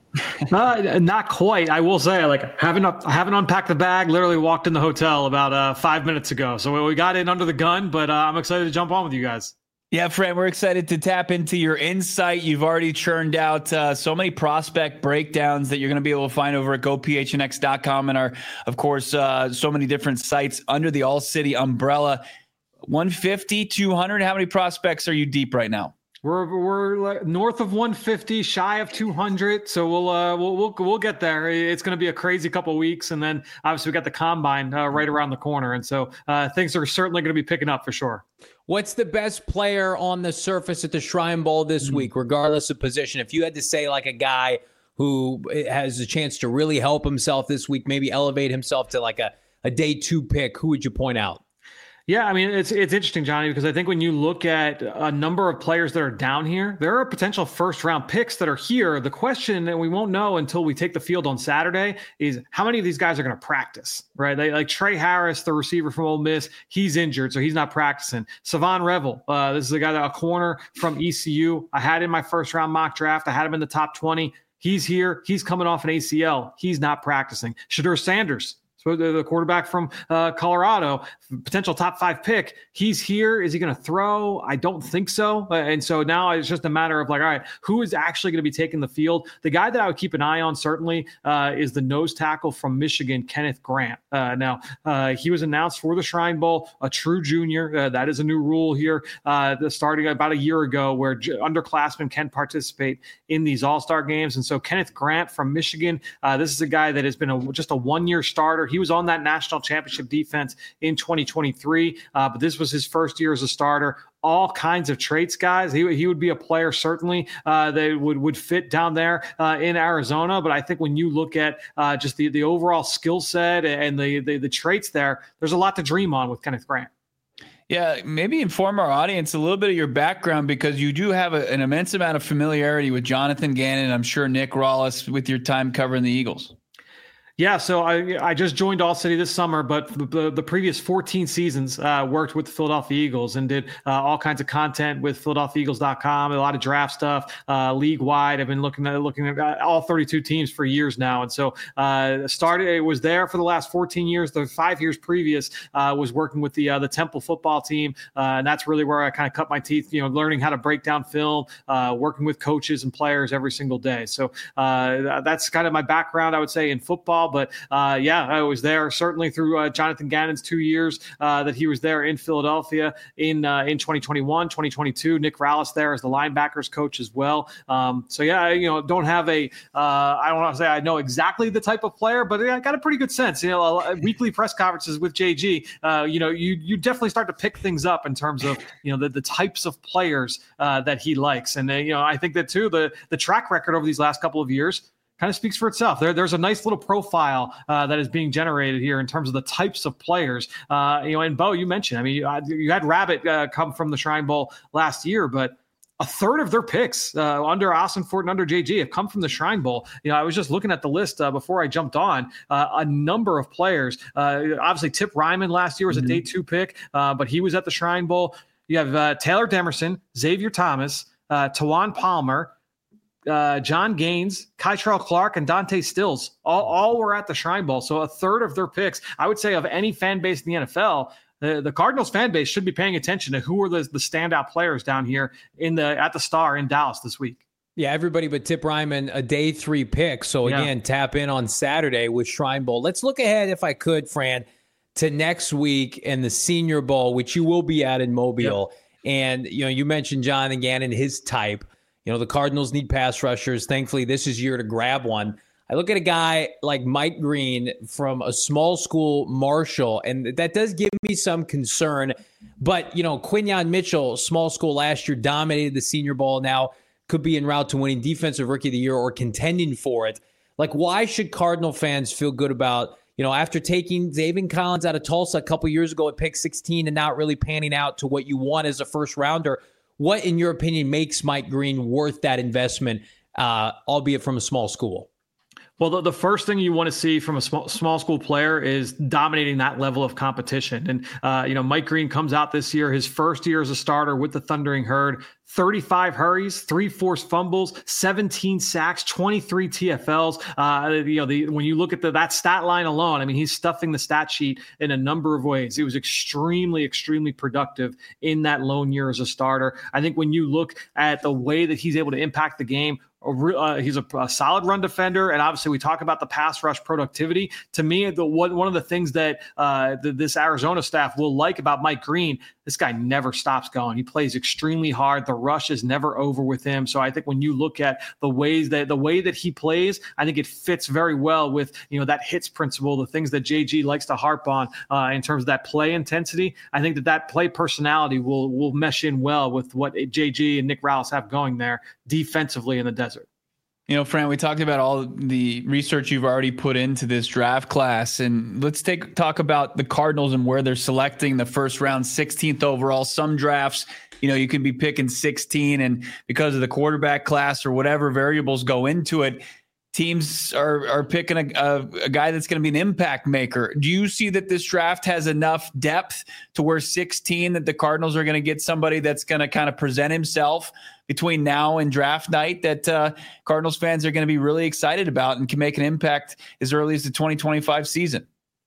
[SPEAKER 4] Not quite. I will say, I haven't unpacked the bag. Literally walked in the hotel about 5 minutes ago. So we got in under the gun, but I'm excited to jump on with you guys.
[SPEAKER 1] Yeah, Fran, we're excited to tap into your insight. You've already churned out so many prospect breakdowns that you're going to be able to find over at gophnx.com and our, of course, so many different sites under the All City umbrella. 150, 200. How many prospects are you deep right now?
[SPEAKER 4] We're north of 150, shy of 200. So we'll get there. It's going to be a crazy couple of weeks, and then obviously we got the combine right around the corner, and so things are certainly going to be picking up for sure.
[SPEAKER 2] What's the best player on the surface at the Shrine Bowl this week, regardless of position? If you had to say like a guy who has a chance to really help himself this week, maybe elevate himself to like a day 2 pick, who would you point out?
[SPEAKER 4] Yeah, I mean, it's interesting, Johnny, because I think when you look at a number of players that are down here, there are potential first-round picks that are here. The question that we won't know until we take the field on Saturday is how many of these guys are going to practice, right? Like Trey Harris, the receiver from Ole Miss, he's injured, so he's not practicing. Savon Revel, this is a guy, a corner from ECU. I had in my first-round mock draft. I had him in the top 20. He's here. He's coming off an ACL. He's not practicing. Shedeur Sanders, So the quarterback from Colorado, potential top 5 pick, he's here. Is he going to throw? I don't think so. And so now it's just a matter of like, all right, who is actually going to be taking the field? The guy that I would keep an eye on certainly is the nose tackle from Michigan, Kenneth Grant. Now, he was announced for the Shrine Bowl, a true junior. That is a new rule here starting about a year ago where underclassmen can participate in these all-star games. And so Kenneth Grant from Michigan, this is a guy that has been just a one-year starter. He was on that national championship defense in 2023, but this was his first year as a starter. All kinds of traits, guys. He would be a player certainly that would fit down there in Arizona. But I think when you look at just the overall skill set and the traits there, there's a lot to dream on with Kenneth Grant.
[SPEAKER 1] Yeah, maybe inform our audience a little bit of your background, because you do have an immense amount of familiarity with Jonathan Gannon. I'm sure Nick Rawlis with your time covering the Eagles.
[SPEAKER 4] Yeah, so I just joined All City this summer, but the previous 14 seasons worked with the Philadelphia Eagles and did all kinds of content with PhiladelphiaEagles.com, a lot of draft stuff, league-wide. I've been looking at all 32 teams for years now. And so it was there for the last 14 years. The 5 years previous was working with the Temple football team, and that's really where I kind of cut my teeth, learning how to break down film, working with coaches and players every single day. So that's kind of my background, I would say, in football. But I was there certainly through Jonathan Gannon's 2 years that he was there in Philadelphia in 2021, 2022. Nick Rawlis there as the linebackers coach as well. Don't have I don't want to say I know exactly the type of player, but I got a pretty good sense. Weekly press conferences with JG, you definitely start to pick things up in terms of the types of players that he likes, and I think that too the track record over these last couple of years kind of speaks for itself. There's a nice little profile that is being generated here in terms of the types of players. And Bo, you mentioned, you had Rabbit come from the Shrine Bowl last year, but a third of their picks under Austin Fort and under JG have come from the Shrine Bowl. I was just looking at the list before I jumped on. A number of players. Obviously, Tip Ryman last year was a day 2 pick, but he was at the Shrine Bowl. You have Taylor Demerson, Xavier Thomas, Tawan Palmer, John Gaines, Kytrell Clark, and Dante Stills all were at the Shrine Bowl. So a third of their picks, I would say, of any fan base in the NFL, the Cardinals fan base should be paying attention to who are the standout players down here at the Star in Dallas this week.
[SPEAKER 2] Yeah, everybody but Tip Ryman, a day 3 pick. So again, tap in on Saturday with Shrine Bowl. Let's look ahead, if I could, Fran, to next week and the Senior Bowl, which you will be at in Mobile. Yep. And you mentioned Jonathan Gannon, his type. The Cardinals need pass rushers. Thankfully, this is year to grab one. I look at a guy like Mike Green from a small school, Marshall, and that does give me some concern. But, Quinyon Mitchell, small school last year, dominated the Senior Bowl. Now could be en route to winning Defensive Rookie of the Year or contending for it. Like, why should Cardinal fans feel good about, after taking Zaven Collins out of Tulsa a couple years ago at pick 16 and not really panning out to what you want as a first rounder? What, in your opinion, makes Mike Green worth that investment, albeit from a small school?
[SPEAKER 4] Well, the first thing you want to see from a small school player is dominating that level of competition. And, Mike Green comes out this year, his first year as a starter with the Thundering Herd, 35 hurries, 3 forced fumbles, 17 sacks, 23 TFLs. When you look at that stat line alone, he's stuffing the stat sheet in a number of ways. He was extremely, extremely productive in that lone year as a starter. I think when you look at the way that he's able to impact the game, he's a solid run defender, and obviously we talk about the pass rush productivity. To me, one of the things that this Arizona staff will like about Mike Green, this guy never stops going. He plays extremely hard. The rush is never over with him. So I think when you look at the way that he plays, I think it fits very well with that hits principle, the things that JG likes to harp on in terms of that play intensity. I think that play personality will mesh in well with what JG and Nick Rawlis have going there defensively in the desert.
[SPEAKER 1] Fran, we talked about all the research you've already put into this draft class, and let's talk about the Cardinals and where they're selecting the first round, 16th overall. Some drafts, you could be picking 16, and because of the quarterback class or whatever variables go into it, teams are picking a guy that's going to be an impact maker. Do you see that this draft has enough depth to where 16 that the Cardinals are going to get somebody that's going to kind of present himself between now and draft night that Cardinals fans are going to be really excited about and can make an impact as early as the 2025 season?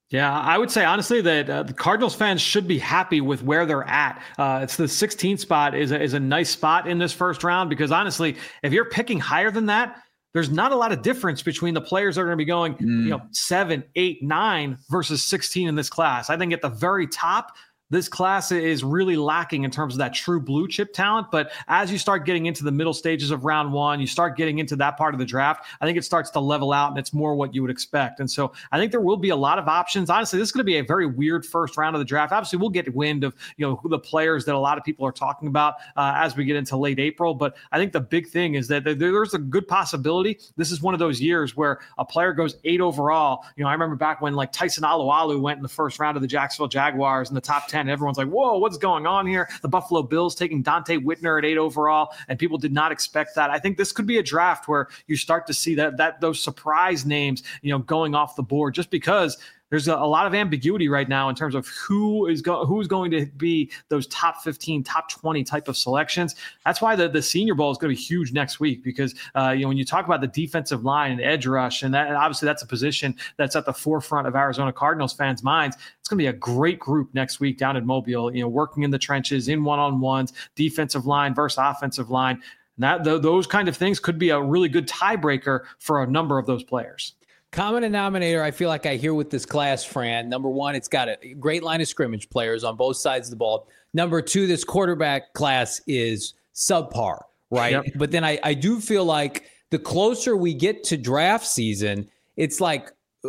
[SPEAKER 4] Yeah, I would say honestly that the Cardinals fans should be happy with where they're at. It's the 16th spot is a nice spot in this first round, because honestly, if you're picking higher than that, there's not a lot of difference between the players that are going to be going, 7, 8, 9 versus 16 in this class. I think at the very top, this class is really lacking in terms of that true blue chip talent. But as you start getting into the middle stages of round one, you start getting into that part of the draft, I think it starts to level out and it's more what you would expect. And so I think there will be a lot of options. Honestly, this is going to be a very weird first round of the draft. Obviously, we'll get wind of, the players that a lot of people are talking about as we get into late April. But I think the big thing is that there's a good possibility this is one of those years where a player goes 8 overall. I remember back when like Tyson Alualu went in the first round of the Jacksonville Jaguars in the top 10. Everyone's like, whoa, what's going on here? The Buffalo Bills taking Dante Whitner at 8 overall, and people did not expect that. I think this could be a draft where you start to see that those surprise names, going off the board, just because there's a lot of ambiguity right now in terms of who's going to be those top 15, top 20 type of selections. That's why the Senior Bowl is going to be huge next week, because when you talk about the defensive line and edge rush, and obviously that's a position that's at the forefront of Arizona Cardinals fans' minds. It's going to be a great group next week down in Mobile, working in the trenches, in one-on-ones, defensive line versus offensive line. Those kind of things could be a really good tiebreaker for a number of those players.
[SPEAKER 2] Common denominator I feel like I hear with this class, Fran. Number one, it's got a great line of scrimmage players on both sides of the ball. Number two, this quarterback class is subpar, right? Yep. But then I do feel like the closer we get to draft season, it's like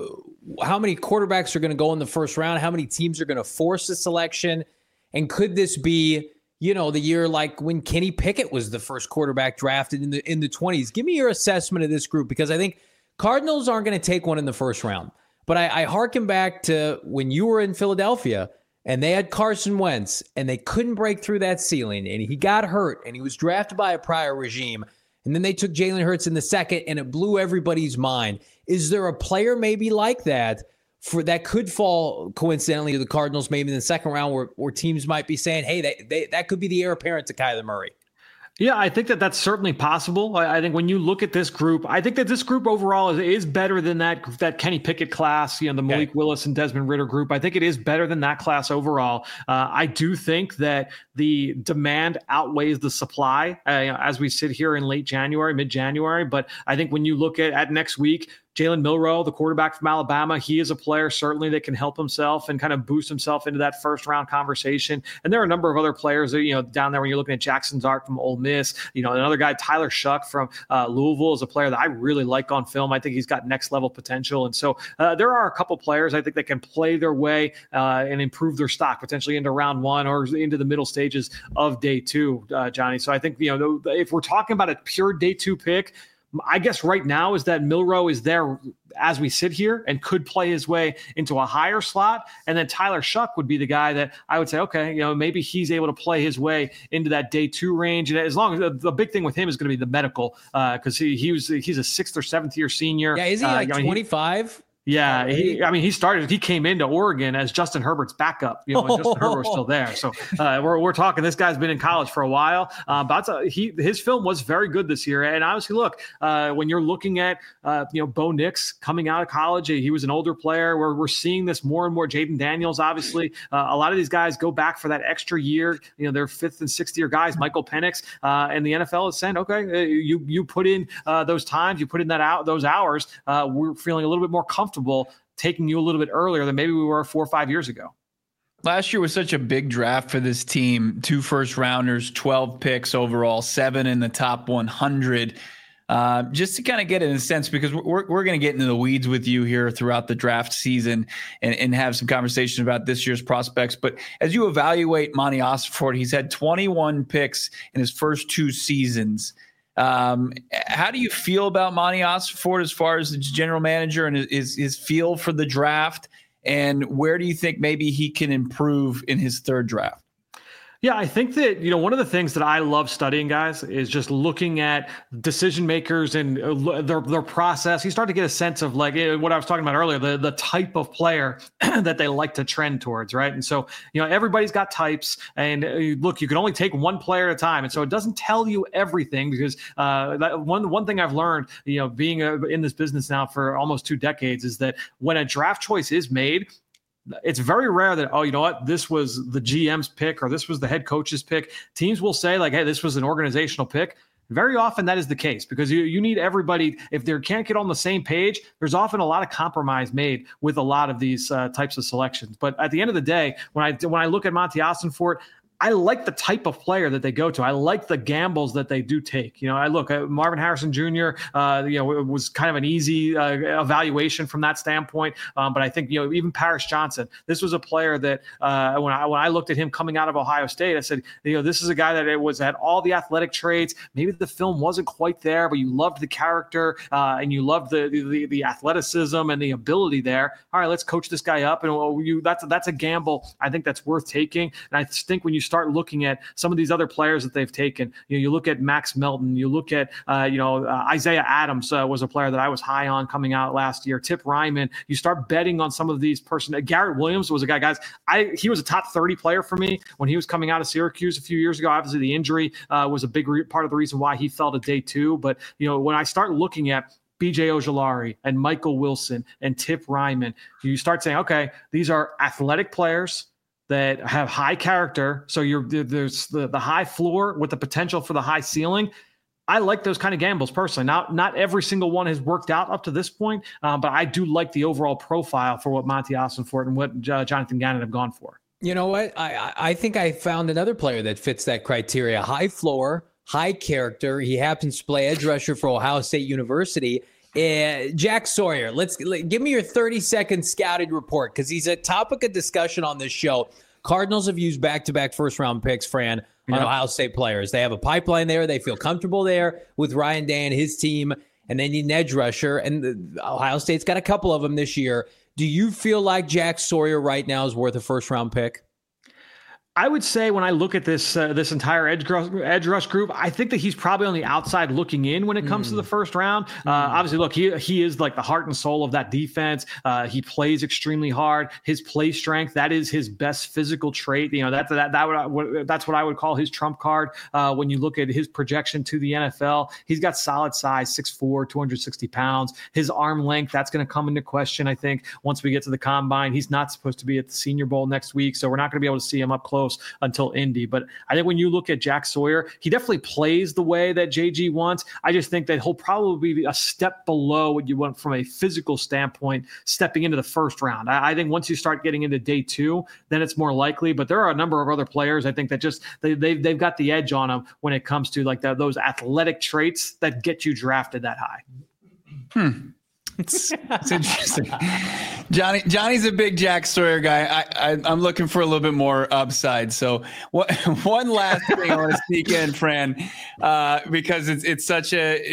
[SPEAKER 2] how many quarterbacks are going to go in the first round? How many teams are going to force a selection? And could this be, the year like when Kenny Pickett was the first quarterback drafted in the 20s? Give me your assessment of this group, because I think Cardinals aren't going to take one in the first round. But I hearken back to when you were in Philadelphia and they had Carson Wentz and they couldn't break through that ceiling, and he got hurt and he was drafted by a prior regime. And then they took Jalen Hurts in the second and it blew everybody's mind. Is there a player maybe like that that could fall coincidentally to the Cardinals maybe in the second round where teams might be saying, hey, that could be the heir apparent to Kyler Murray?
[SPEAKER 4] Yeah, I think that's certainly possible. I think when you look at this group, I think that this group overall is better than that Kenny Pickett class, the Malik Willis and Desmond Ridder group. I think it is better than that class overall. I do think that the demand outweighs the supply as we sit here in mid-January. But I think when you look at next week, Jalen Milroe, the quarterback from Alabama, he is a player certainly that can help himself and kind of boost himself into that first round conversation. And there are a number of other players that, down there when you're looking at Jackson Dart from Ole Miss, another guy, Tyler Shuck from Louisville, is a player that I really like on film. I think he's got next level potential. And so there are a couple players I think that can play their way and improve their stock potentially into round one or into the middle stages of day two, Johnny. So I think, if we're talking about a pure day two pick, I guess right now is that Milroe is there as we sit here and could play his way into a higher slot. And then Tyler Shuck would be the guy that I would say, okay, maybe he's able to play his way into that day two range. And as long as the big thing with him is going to be the medical, because he's a 6th or 7th year senior.
[SPEAKER 2] Yeah, is he like 25?
[SPEAKER 4] Yeah, he came into Oregon as Justin Herbert's backup, and Justin Herbert was still there. So we're talking, this guy's been in college for a while, but his film was very good this year. And obviously, look, when you're looking at, Bo Nix coming out of college, he was an older player. We're seeing this more and more. Jaden Daniels, obviously, a lot of these guys go back for that extra year. They're 5th and 6th year guys. Michael Penix, and the NFL is saying, okay, you put in those times, you put in those hours. We're feeling a little bit more comfortable taking you a little bit earlier than maybe we were 4 or 5 years ago.
[SPEAKER 1] Last year was such a big draft for this team. 2 first rounders, 12 picks overall, 7 in the top 100. Just to kind of get it in a sense, because we're going to get into the weeds with you here throughout the draft season and have some conversation about this year's prospects. But as you evaluate Monty Ossenfort, he's had 21 picks in his first 2 seasons. How do you feel about Monty Ossenfort as far as the general manager and his feel for the draft? And where do you think maybe he can improve in his 3rd draft?
[SPEAKER 4] Yeah, I think that, one of the things that I love studying, guys, is just looking at decision makers and their process. You start to get a sense of like what I was talking about earlier, the type of player that they like to trend towards, right? And so, everybody's got types, and look, you can only take one player at a time. And so it doesn't tell you everything, because one thing I've learned, being in this business now for almost 2 decades, is that when a draft choice is made, it's very rare that, oh, you know what, this was the GM's pick or this was the head coach's pick. Teams will say like, hey, this was an organizational pick. Very often that is the case because you need everybody. If they can't get on the same page, there's often a lot of compromise made with a lot of these types of selections. But at the end of the day, when I look at Monti Ossenfort, I like the type of player that they go to. I like the gambles that they do take. I look at Marvin Harrison Jr. It was kind of an easy evaluation from that standpoint. But I think, even Paris Johnson, this was a player that when I looked at him coming out of Ohio State, I said, this is a guy that had all the athletic traits. Maybe the film wasn't quite there, but you loved the character and you loved the athleticism and the ability there. All right, let's coach this guy up. And that's a gamble. I think that's worth taking. And I think when you start looking at some of these other players that they've taken, you look at Max Melton, you look at, Isaiah Adams was a player that I was high on coming out last year. Tip Ryman, you start betting on some of these Garrett Williams was a guy, guys, he was a top 30 player for me when he was coming out of Syracuse a few years ago. Obviously the injury was a big part of the reason why he fell to day 2. But, when I start looking at BJ Ojulari and Michael Wilson and Tip Ryman, you start saying, okay, these are athletic players that have high character. So there's the high floor with the potential for the high ceiling. I like those kind of gambles personally. Not every single one has worked out up to this point, but I do like the overall profile for what Monti Ossenfort and what Jonathan Gannon have gone for. You know what?
[SPEAKER 2] I think I found another player that fits that criteria. High floor, high character. He happens to play edge rusher for Ohio State University. Jack Sawyer, give me your 30-second scouted report because he's a topic of discussion on this show. Cardinals have used back-to-back first-round picks, Fran, on Ohio State players. They have a pipeline there. They feel comfortable there with Ryan Day and his team, and they need an edge rusher. And Ohio State's got a couple of them this year. Do you feel like Jack Sawyer right now is worth a first-round pick?
[SPEAKER 4] I would say when I look at this entire edge rush group, I think that he's probably on the outside looking in when it comes to the first round. Obviously, look, he is like the heart and soul of that defense. He plays extremely hard. His play strength, that is his best physical trait. That's what I would call his trump card. When you look at his projection to the NFL, he's got solid size, 6'4", 260 pounds. His arm length, that's going to come into question, I think, once we get to the combine. He's not supposed to be at the Senior Bowl next week, so we're not going to be able to see him up close until Indy. But I think when you look at Jack Sawyer, he definitely plays the way that JG wants. I just think that he'll probably be a step below what you want from a physical standpoint stepping into the first round. I think once you start getting into day 2, then it's more likely. But there are a number of other players I think that just they've got the edge on them when it comes to like those athletic traits that get you drafted that high.
[SPEAKER 1] It's interesting. Johnny's a big Jack Sawyer guy. I'm looking for a little bit more upside. So one last thing I want to sneak in, Fran, because it's such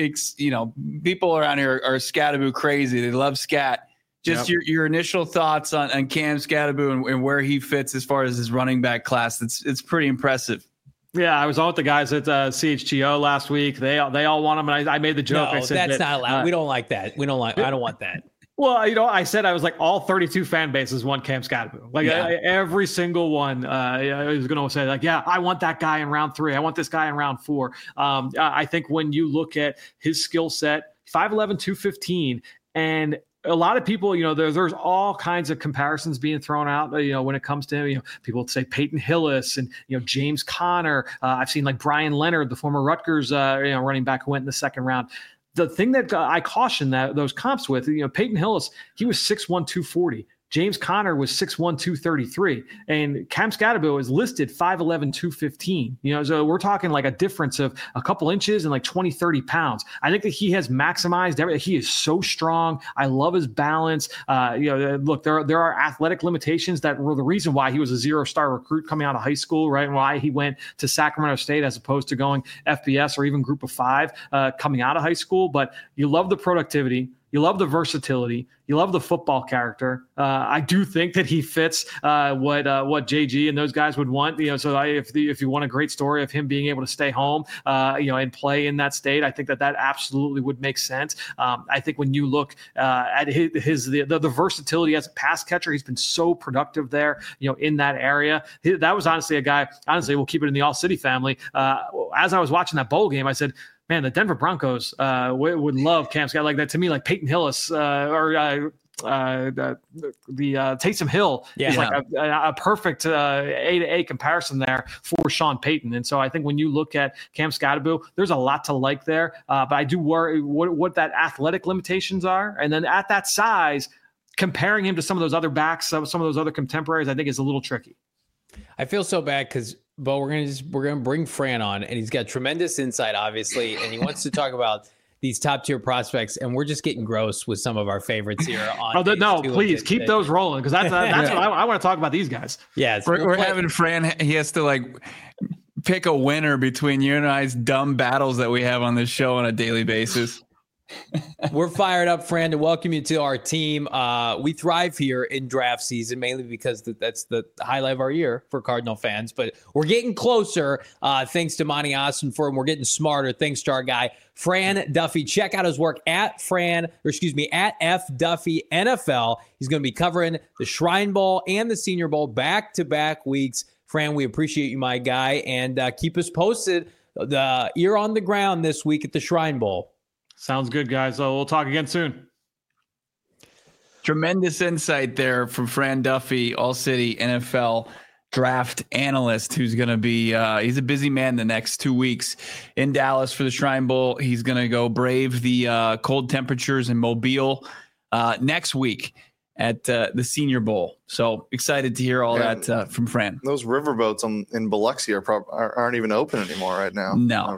[SPEAKER 1] people around here are Scatterbo crazy. They love scat. Just your initial thoughts on Cam Scatterbo and where he fits as far as his running back class. It's pretty impressive.
[SPEAKER 4] Yeah, I was on with the guys at CHGO last week. They all want him, and I made the joke.
[SPEAKER 2] No,
[SPEAKER 4] I said
[SPEAKER 2] that's not allowed. We don't like that. I don't want that.
[SPEAKER 4] Well, I said I was like all 32 fan bases want Cam Scatterbo. Every single one I was going to say like, yeah, I want that guy in round 3. I want this guy in round 4. I think when you look at his skill set, 5'11", 215, and a lot of people, there's all kinds of comparisons being thrown out, when it comes to him. People say Peyton Hillis and, James Conner. I've seen like Brian Leonard, the former Rutgers, running back who went in the second round. The thing that I caution those comps with, Peyton Hillis, he was 6'1", 240. James Conner was 6'1", 233, and Cam Scatterbo is listed 5'11", 215. So we're talking like a difference of a couple inches and like 20, 30 pounds. I think that he has maximized everything. He is so strong. I love his balance. Look, there are athletic limitations that were the reason why he was a 0-star recruit coming out of high school, right? And why he went to Sacramento State as opposed to going FBS or even Group of 5 coming out of high school. But you love the productivity. You love the versatility. You love the football character. I do think that he fits what JG and those guys would want. So if you want a great story of him being able to stay home, and play in that state, I think that absolutely would make sense. I think when you look at the versatility as a pass catcher, he's been so productive there. In that area, that was honestly a guy. Honestly, we'll keep it in the All City family. As I was watching that bowl game, I said, man, the Denver Broncos would love Cam Scott like that. To me, like Peyton Hillis or Taysom Hill is like a perfect A-to-A comparison there for Sean Payton. And so I think when you look at Cam Skattebo, there's a lot to like there. But I do worry what that athletic limitations are. And then at that size, comparing him to some of those other backs, some of those other contemporaries, I think is a little tricky.
[SPEAKER 2] I feel so bad because, Bo, we're gonna bring Fran on, and he's got tremendous insight, obviously, and he wants to talk about these top tier prospects, and we're just getting gross with some of our favorites here. On
[SPEAKER 4] please keep those rolling because that's what I want to talk about these guys.
[SPEAKER 2] Yeah,
[SPEAKER 1] we're having Fran. He has to pick a winner between you and I's dumb battles that we have on this show on a daily basis.
[SPEAKER 2] We're fired up, Fran, to welcome you to our team. We thrive here in draft season, mainly because that's the highlight of our year for Cardinal fans. But we're getting closer thanks to Monty Ossenford, and we're getting smarter thanks to our guy, Fran Duffy. Check out his work at F Duffy NFL. He's going to be covering the Shrine Bowl and the Senior Bowl back-to-back weeks. Fran, we appreciate you, my guy, and keep us posted. The ear on the ground this week at the Shrine Bowl.
[SPEAKER 4] Sounds good, guys. So we'll talk again soon.
[SPEAKER 1] Tremendous insight there from Fran Duffy, All City NFL draft analyst, who's going to be he's a busy man the next 2 weeks in Dallas for the Shrine Bowl. He's going to go brave the cold temperatures in Mobile next week at the Senior Bowl. So excited to hear all that from Fran.
[SPEAKER 3] Those riverboats in Biloxi aren't even open anymore right now.
[SPEAKER 1] No.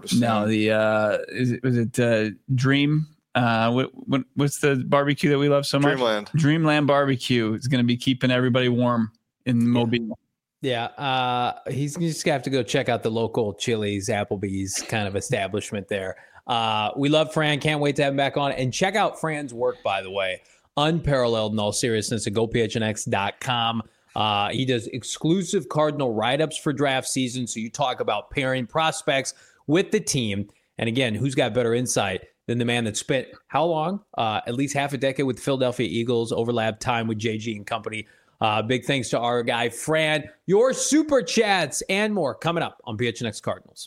[SPEAKER 1] The was it Dream? What's the barbecue that we love so much? Dreamland Barbecue is going to be keeping everybody warm in Mobile.
[SPEAKER 2] Yeah, he's just gonna have to go check out the local Chili's, Applebee's kind of establishment there. We love Fran. Can't wait to have him back on. And check out Fran's work, by the way. Unparalleled in all seriousness at GoPHNX.com. He does exclusive Cardinal write-ups for draft season. So you talk about pairing prospects with the team. And again, who's got better insight than the man that spent how long? At least half a decade with the Philadelphia Eagles, overlapped time with JG and company. Big thanks to our guy, Fran. Your super chats and more coming up on PHNX Cardinals.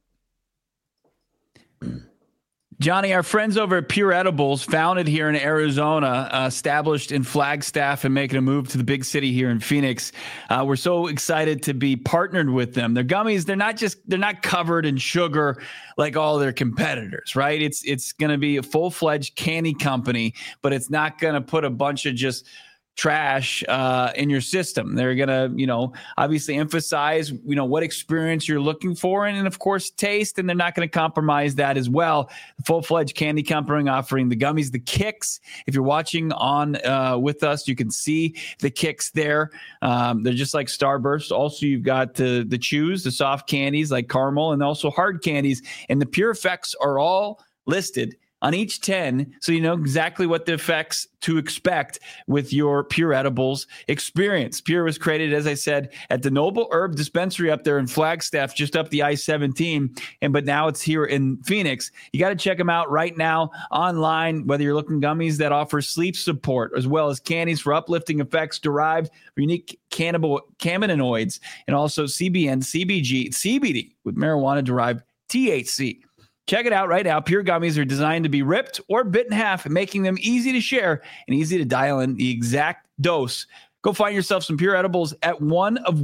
[SPEAKER 1] Johnny, our friends over at Pure Edibles, founded here in Arizona, established in Flagstaff and making a move to the big city here in Phoenix. We're so excited to be partnered with them. Their gummies, they're not covered in sugar like all their competitors, right? It's going to be a full-fledged candy company, but it's not going to put a bunch of just trash in your system. They're gonna, obviously emphasize, what experience you're looking for, and of course taste, and they're not going to compromise that as well. The full-fledged candy company offering the gummies, the Kicks. If you're watching on with us, you can see the Kicks there. They're just like Starburst. Also, you've got the chews, the soft candies like caramel, and also hard candies. And the Pure Effects are all listed on each 10, so you know exactly what the effects to expect with your Pure Edibles experience. Pure was created, as I said, at the Noble Herb Dispensary up there in Flagstaff, just up the I-17, but now it's here in Phoenix. You got to check them out right now online, whether you're looking gummies that offer sleep support, as well as candies for uplifting effects derived from unique cannabinoids, and also CBN, CBG, CBD with marijuana-derived THC. Check it out right now. Pure Gummies are designed to be ripped or bit in half, making them easy to share and easy to dial in the exact dose. Go find yourself some Pure Edibles at one of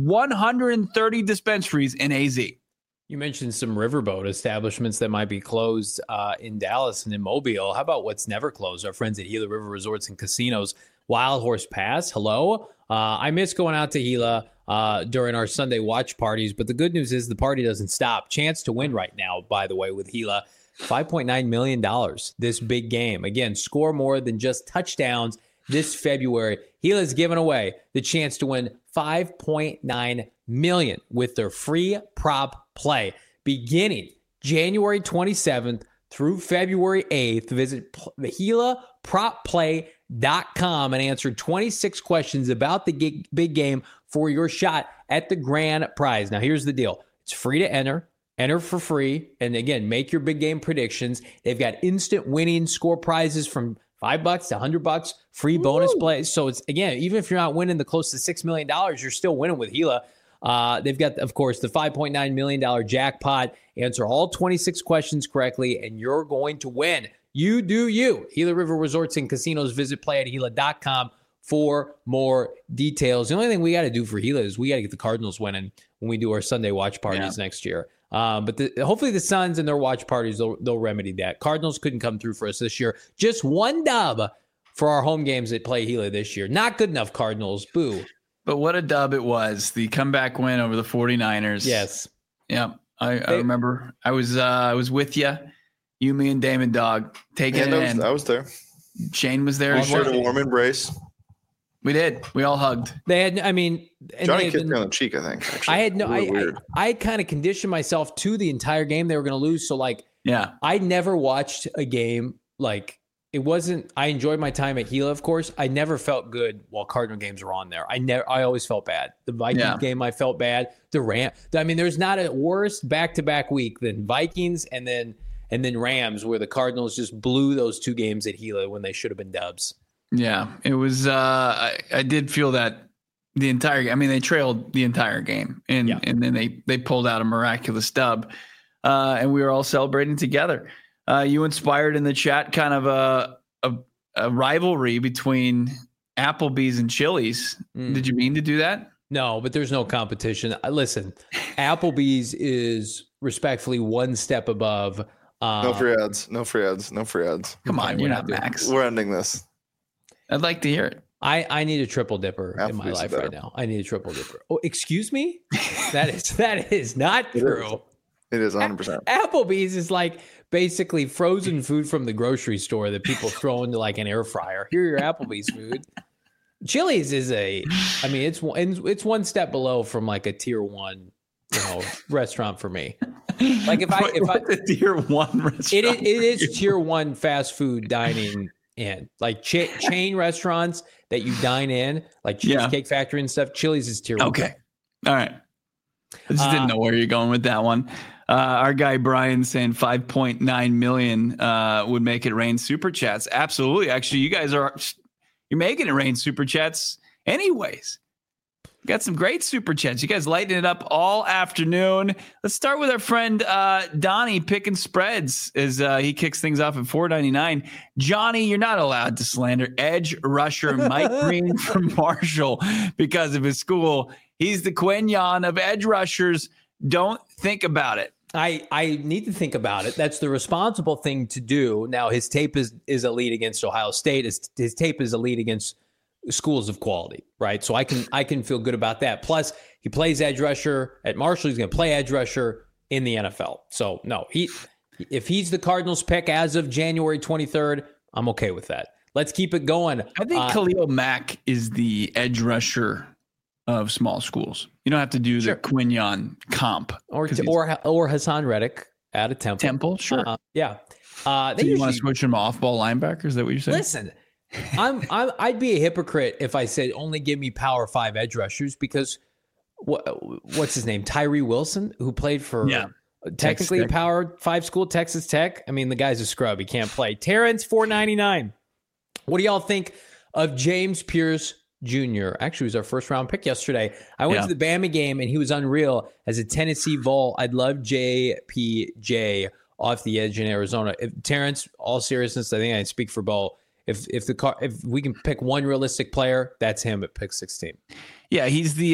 [SPEAKER 1] 130 dispensaries in AZ.
[SPEAKER 2] You mentioned some riverboat establishments that might be closed in Dallas and in Mobile. How about what's never closed? Our friends at Gila River Resorts and Casinos. Wild Horse Pass, hello. I miss going out to Gila during our Sunday watch parties, but the good news is the party doesn't stop. Chance to win right now, by the way, with Gila. $5.9 million this big game. Again, score more than just touchdowns this February. Gila's giving away the chance to win $5.9 million with their free prop play. Beginning January 27th through February 8th, visit the GilaPropPlay.com and answer 26 questions about the big game for your shot at the grand prize. Now, here's the deal. It's free to enter. Enter for free. And again, make your big game predictions. They've got instant winning score prizes from $5 to $100, free bonus plays. So it's, again, even if you're not winning the close to $6 million, you're still winning with Gila. They've got, of course, the $5.9 million jackpot. Answer all 26 questions correctly, and you're going to win. You do you. Gila River Resorts and Casinos. Visit playatgila.com for more details. The only thing we got to do for Gila is we got to get the Cardinals winning when we do our Sunday watch parties next year. But hopefully the Suns and their watch parties, they'll remedy that. Cardinals couldn't come through for us this year. Just one dub for our home games at Play Gila this year. Not good enough, Cardinals. Boo.
[SPEAKER 1] But what a dub it was. The comeback win over the 49ers.
[SPEAKER 2] Yes.
[SPEAKER 1] Yeah. I remember I was with you, me and Damon Dog taking it in.
[SPEAKER 3] I was there.
[SPEAKER 1] Shane was there.
[SPEAKER 3] We shared a warm embrace.
[SPEAKER 1] We did. We all hugged.
[SPEAKER 2] They had, I mean,
[SPEAKER 3] Johnny kissed me on the cheek, I think. Actually.
[SPEAKER 2] I had no, I kind of conditioned myself to the entire game they were going to lose. So like,
[SPEAKER 1] yeah,
[SPEAKER 2] I never watched a game like it wasn't. I enjoyed my time at Gila, of course. I never felt good while Cardinal games were on there. I always felt bad. The Vikings game, I felt bad. I mean, there's not a worse back-to-back week than Vikings and then Rams, where the Cardinals just blew those two games at Gila when they should have been dubs.
[SPEAKER 1] Yeah, it was. I did feel that the entire. I mean, they trailed the entire game, and then they pulled out a miraculous dub, and we were all celebrating together. You inspired in the chat kind of a rivalry between Applebee's and Chili's. Did you mean to do that?
[SPEAKER 2] No, but there's no competition. Listen, Applebee's is respectfully one step above.
[SPEAKER 3] No free ads. No free ads. No free ads.
[SPEAKER 1] Come on, you're not Max.
[SPEAKER 3] We're ending this.
[SPEAKER 1] I'd like to hear it.
[SPEAKER 2] I need a triple dipper in my life right now. I need a triple dipper. Oh, excuse me? That is not true.
[SPEAKER 3] It is 100%.
[SPEAKER 2] Applebee's is like basically frozen food from the grocery store that people throw into like an air fryer. Here are your Applebee's food. Chili's is it's one step below from like a tier 1, restaurant for me. Like if I
[SPEAKER 1] the tier 1 restaurant,
[SPEAKER 2] it is tier 1 fast food dining in like chain restaurants that you dine in, like Cheesecake Factory and stuff. Chili's is tier 1.
[SPEAKER 1] Okay, all right. I just didn't know where you're going with that one. Our guy Brian saying 5.9 million would make it rain super chats. Absolutely. Actually, you guys you're making it rain super chats anyways. Got some great super chats. You guys lighting it up all afternoon. Let's start with our friend Donnie picking spreads as he kicks things off at $4.99. Johnny, you're not allowed to slander edge rusher Mike Green from Marshall because of his school. He's the Quinyon of edge rushers. Don't think about it.
[SPEAKER 2] I need to think about it. That's the responsible thing to do. Now, his tape is elite against Ohio State. His tape is elite against schools of quality, right? So I can feel good about that. Plus, he plays edge rusher at Marshall. He's going to play edge rusher in the NFL. So, no, if he's the Cardinals pick as of January 23rd, I'm okay with that. Let's keep it going.
[SPEAKER 1] I think Khalil Mack is the edge rusher of small schools. You don't have to do the Quinyon comp.
[SPEAKER 2] Or Hassan Reddick out of Temple.
[SPEAKER 1] Sure.
[SPEAKER 2] Yeah.
[SPEAKER 1] So you want to switch him off-ball linebacker? Is that what you're saying?
[SPEAKER 2] Listen, I'd be a hypocrite if I said only give me Power 5 edge rushers because what's his name? Tyree Wilson, who played for technically a Power 5 school, Texas Tech. I mean, the guy's a scrub. He can't play. Terrence, $4.99. What do y'all think of James Pierce Jr.? Actually, he was our first round pick yesterday. I went to the Bama game and he was unreal as a Tennessee Vol. I'd love JPJ off the edge in Arizona. Terrence, all seriousness, I think I speak for Bo. If we can pick one realistic player, that's him at pick 16.
[SPEAKER 1] Yeah, he's the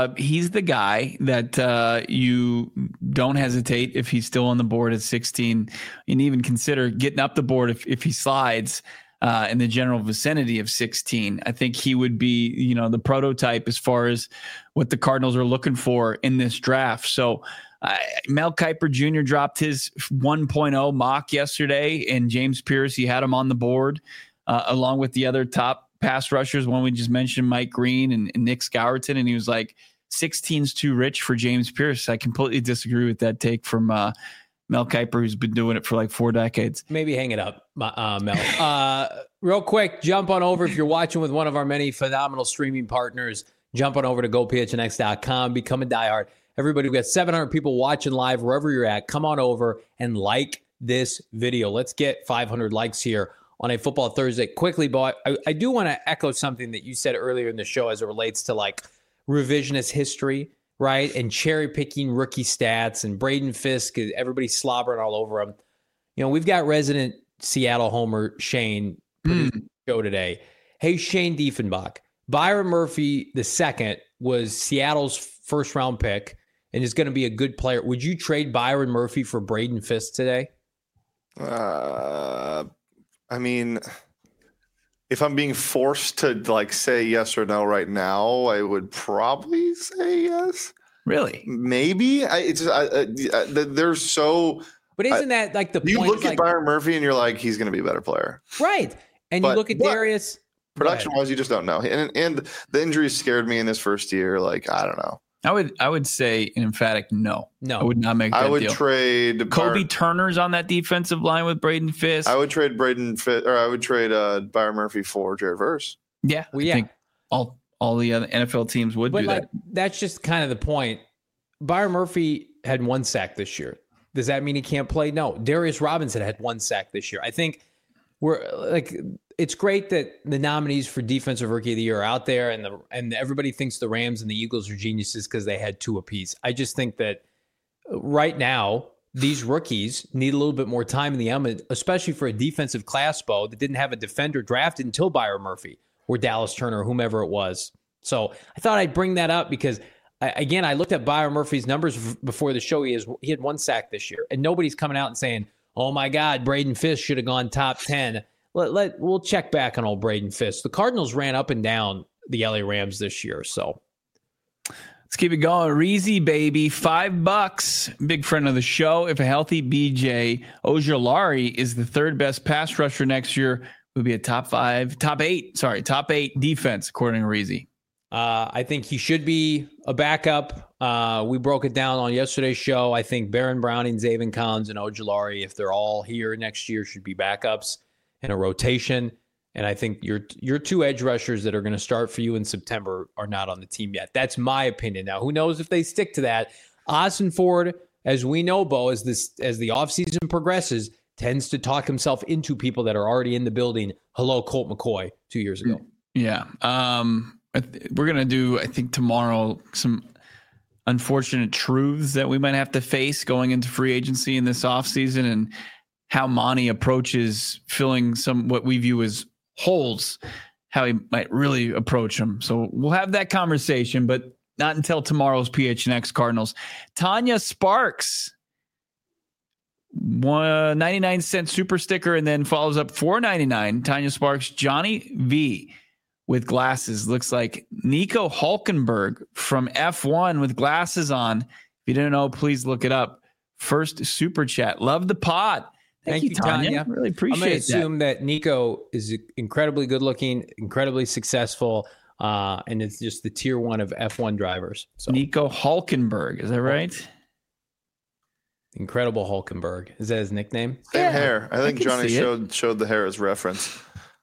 [SPEAKER 1] guy that you don't hesitate if he's still on the board at 16, and even consider getting up the board if he slides in the general vicinity of 16. I think he would be, the prototype as far as what the Cardinals are looking for in this draft. So Mel Kiper Jr. dropped his 1.0 mock yesterday, and James Pierce, he had him on the board along with the other top pass rushers, one we just mentioned, Mike Green and Nick Scourton, and he was like, 16's too rich for James Pierce. I completely disagree with that take from Mel Kiper, who's been doing it for like 4 decades.
[SPEAKER 2] Maybe hang it up, Mel. Real quick, jump on over if you're watching with one of our many phenomenal streaming partners. Jump on over to gophnx.com, become a diehard. Everybody, we've got 700 people watching live wherever you're at. Come on over and like this video. Let's get 500 likes here on a Football Thursday. Quickly, Bo, I do want to echo something that you said earlier in the show as it relates to like revisionist history, right? And cherry picking rookie stats and Braden Fisk, everybody slobbering all over him. We've got resident Seattle homer Shane produced the show today. Hey, Shane Diefenbach, Byron Murphy II was Seattle's first round pick and is going to be a good player. Would you trade Byron Murphy for Braden Fisk today?
[SPEAKER 3] I mean, if I'm being forced to like say yes or no right now, I would probably say yes.
[SPEAKER 1] Really?
[SPEAKER 3] Maybe. There's so.
[SPEAKER 2] But isn't that like the point?
[SPEAKER 3] You look at
[SPEAKER 2] like,
[SPEAKER 3] Byron Murphy and you're like, he's going to be a better player,
[SPEAKER 2] right? And you look at Darius.
[SPEAKER 3] Production-wise, you just don't know. And the injuries scared me in his first year. Like, I don't know.
[SPEAKER 1] I would say an emphatic no.
[SPEAKER 2] No.
[SPEAKER 1] I would not make that deal.
[SPEAKER 3] I would trade
[SPEAKER 1] Kobe Turner's on that defensive line with Braden Fisk.
[SPEAKER 3] I would trade Byron Murphy for Jared Verse.
[SPEAKER 1] Yeah. I think all the other NFL teams would do that.
[SPEAKER 2] That's just kind of the point. Byron Murphy had 1 sack this year. Does that mean he can't play? No. Darius Robinson had 1 sack this year. I think it's great that the nominees for Defensive Rookie of the Year are out there, and everybody thinks the Rams and the Eagles are geniuses because they had 2 apiece. I just think that right now these rookies need a little bit more time in the element, especially for a defensive class, Bo, that didn't have a defender drafted until Byron Murphy or Dallas Turner, or whomever it was. So I thought I'd bring that up because, again, I looked at Byron Murphy's numbers before the show. He had 1 sack this year, and nobody's coming out and saying, oh my God, Braden Fisk should have gone top 10. We'll check back on old Braden Fisk. The Cardinals ran up and down the LA Rams this year, so
[SPEAKER 1] let's keep it going. Reezy, baby, $5. Big friend of the show. If a healthy BJ Ojulari is the 3rd best pass rusher next year, would be a top 8 defense according to Reezy.
[SPEAKER 2] I think he should be a backup. We broke it down on yesterday's show. I think Baron Browning, Zaven Collins, and Ojulari, if they're all here next year, should be backups in a rotation. And I think your 2 edge rushers that are going to start for you in September are not on the team yet. That's my opinion. Now, who knows if they stick to that? Austin Ford, as we know, Bo, as the offseason progresses, tends to talk himself into people that are already in the building. Hello, Colt McCoy 2 years ago.
[SPEAKER 1] Yeah. We're going to do, I think, tomorrow some unfortunate truths that we might have to face going into free agency in this offseason, and how Monty approaches filling some what we view as holes, how he might really approach them. So we'll have that conversation, but not until tomorrow's PHNX Cardinals. Tanya Sparks, 99-cent super sticker, and then follows up $4.99. Tanya Sparks, Johnny V with glasses. Looks like Nico Hulkenberg from F1 with glasses on. If you didn't know, please look it up. First super chat. Love the pod. Thank you, Tanya. Really appreciate that.
[SPEAKER 2] I'm going to assume that Nico is incredibly good looking, incredibly successful, and it's just the tier 1 of F1 drivers. So
[SPEAKER 1] Nico Hulkenberg, is that right?
[SPEAKER 2] Incredible Hulkenberg. Is that his nickname?
[SPEAKER 3] Same hair. I think Johnny showed the hair as reference.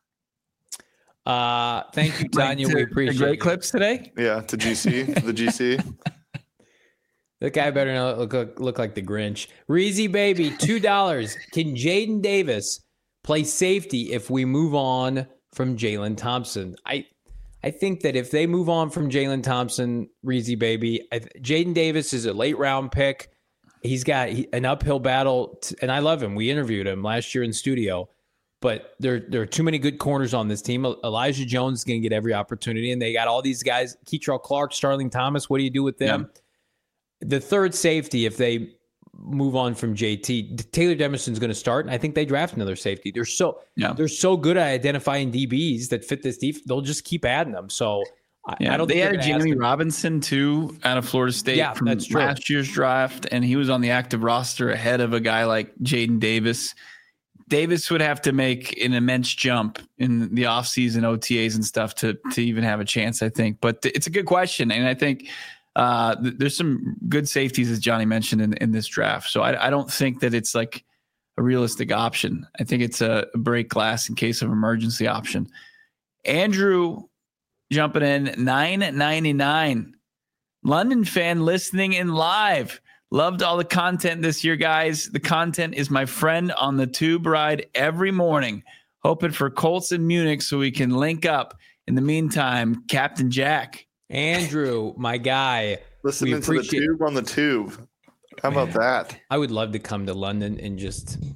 [SPEAKER 2] Thank you, Tanya. We appreciate
[SPEAKER 1] the great clips today.
[SPEAKER 3] Yeah, to GC, the GC.
[SPEAKER 2] That guy better not look like the Grinch. Reezy, baby, $2. Can Jaden Davis play safety if we move on from Jalen Thompson? I think that if they move on from Jalen Thompson, Reezy, baby, Jaden Davis is a late round pick. He's got an uphill battle, and I love him. We interviewed him last year in studio, but there are too many good corners on this team. Elijah Jones is going to get every opportunity, and they got all these guys, Keitrell Clark, Starling Thomas. What do you do with them? Yeah. The third safety, if they move on from JT, Taylor Demerson's going to start, and I think they draft another safety. They're so good at identifying DBs that fit this defense. They'll just keep adding them. So I don't.
[SPEAKER 1] They
[SPEAKER 2] think
[SPEAKER 1] added Jamie Robinson too out of Florida State from last year's draft, and he was on the active roster ahead of a guy like Jaden Davis. Davis would have to make an immense jump in the offseason OTAs and stuff to even have a chance, I think. But it's a good question, and I think. There's some good safeties, as Johnny mentioned, in this draft. So I don't think that it's like a realistic option. I think it's a break glass in case of emergency option. Andrew jumping in, $9.99. London fan listening in live. Loved all the content this year, guys. The content is my friend on the tube ride every morning. Hoping for Colts in Munich so we can link up. In the meantime, Captain Jack.
[SPEAKER 2] Andrew, my guy.
[SPEAKER 3] Listening to the tube on the tube. How about that?
[SPEAKER 2] I would love to come to London and just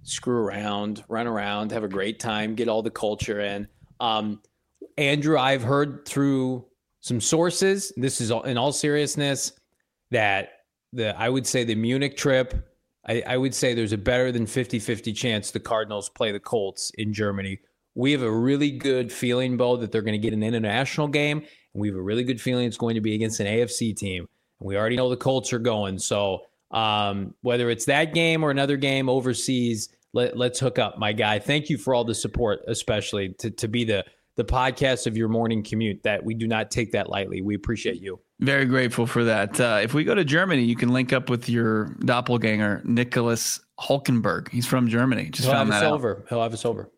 [SPEAKER 2] screw around, run around, have a great time, get all the culture in. Andrew, I've heard through some sources, this is in all seriousness, that I would say the Munich trip, I would say there's a better than 50-50 chance the Cardinals play the Colts in Germany. We have a really good feeling, Bo, that they're going to get an international game, and we have a really good feeling it's going to be against an AFC team. And we already know the Colts are going. So whether it's that game or another game overseas, let's hook up, my guy. Thank you for all the support, especially to be the podcast of your morning commute. That we do not take that lightly. We appreciate you.
[SPEAKER 1] Very grateful for that. If we go to Germany, you can link up with your doppelganger, Nicholas Hulkenberg. He's from Germany. Just found that out.
[SPEAKER 2] He'll have us over.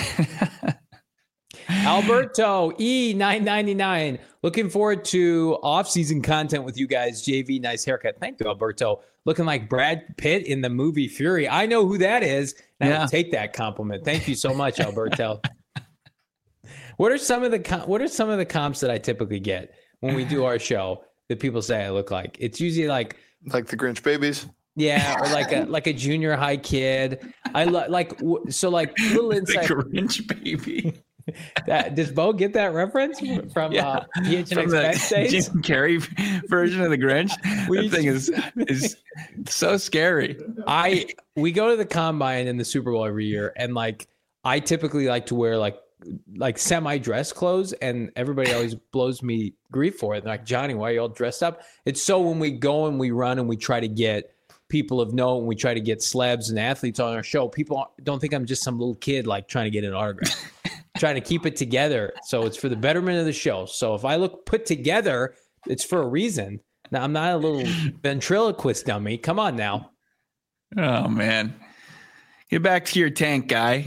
[SPEAKER 2] Alberto E999. Looking forward to off-season content with you guys. JV, nice haircut. Thank you, Alberto. Looking like Brad Pitt in the movie Fury. I know who that is. And I'll take that compliment. Thank you so much, Alberto. What are some of the comps that I typically get when we do our show that people say I look like? It's usually like
[SPEAKER 3] the Grinch babies.
[SPEAKER 2] Yeah, or like a junior high kid. I like little insight.
[SPEAKER 1] The Grinch baby.
[SPEAKER 2] Does Bo get that reference from PHNX Backstage?
[SPEAKER 1] Jim Carrey version of the Grinch. That thing is so scary.
[SPEAKER 2] We go to the combine in the Super Bowl every year, and I typically like to wear like semi-dress clothes, and everybody always blows me grief for it. They're like, Johnny, why are you all dressed up? It's so when we go and we run and we try to get people of note and we try to get celebs and athletes on our show, people don't think I'm just some little kid trying to get an autograph. Trying to keep it together. So it's for the betterment of the show. So if I look put together, it's for a reason. Now, I'm not a little ventriloquist dummy. Come on now.
[SPEAKER 1] Oh, man. Get back to your tank, guy,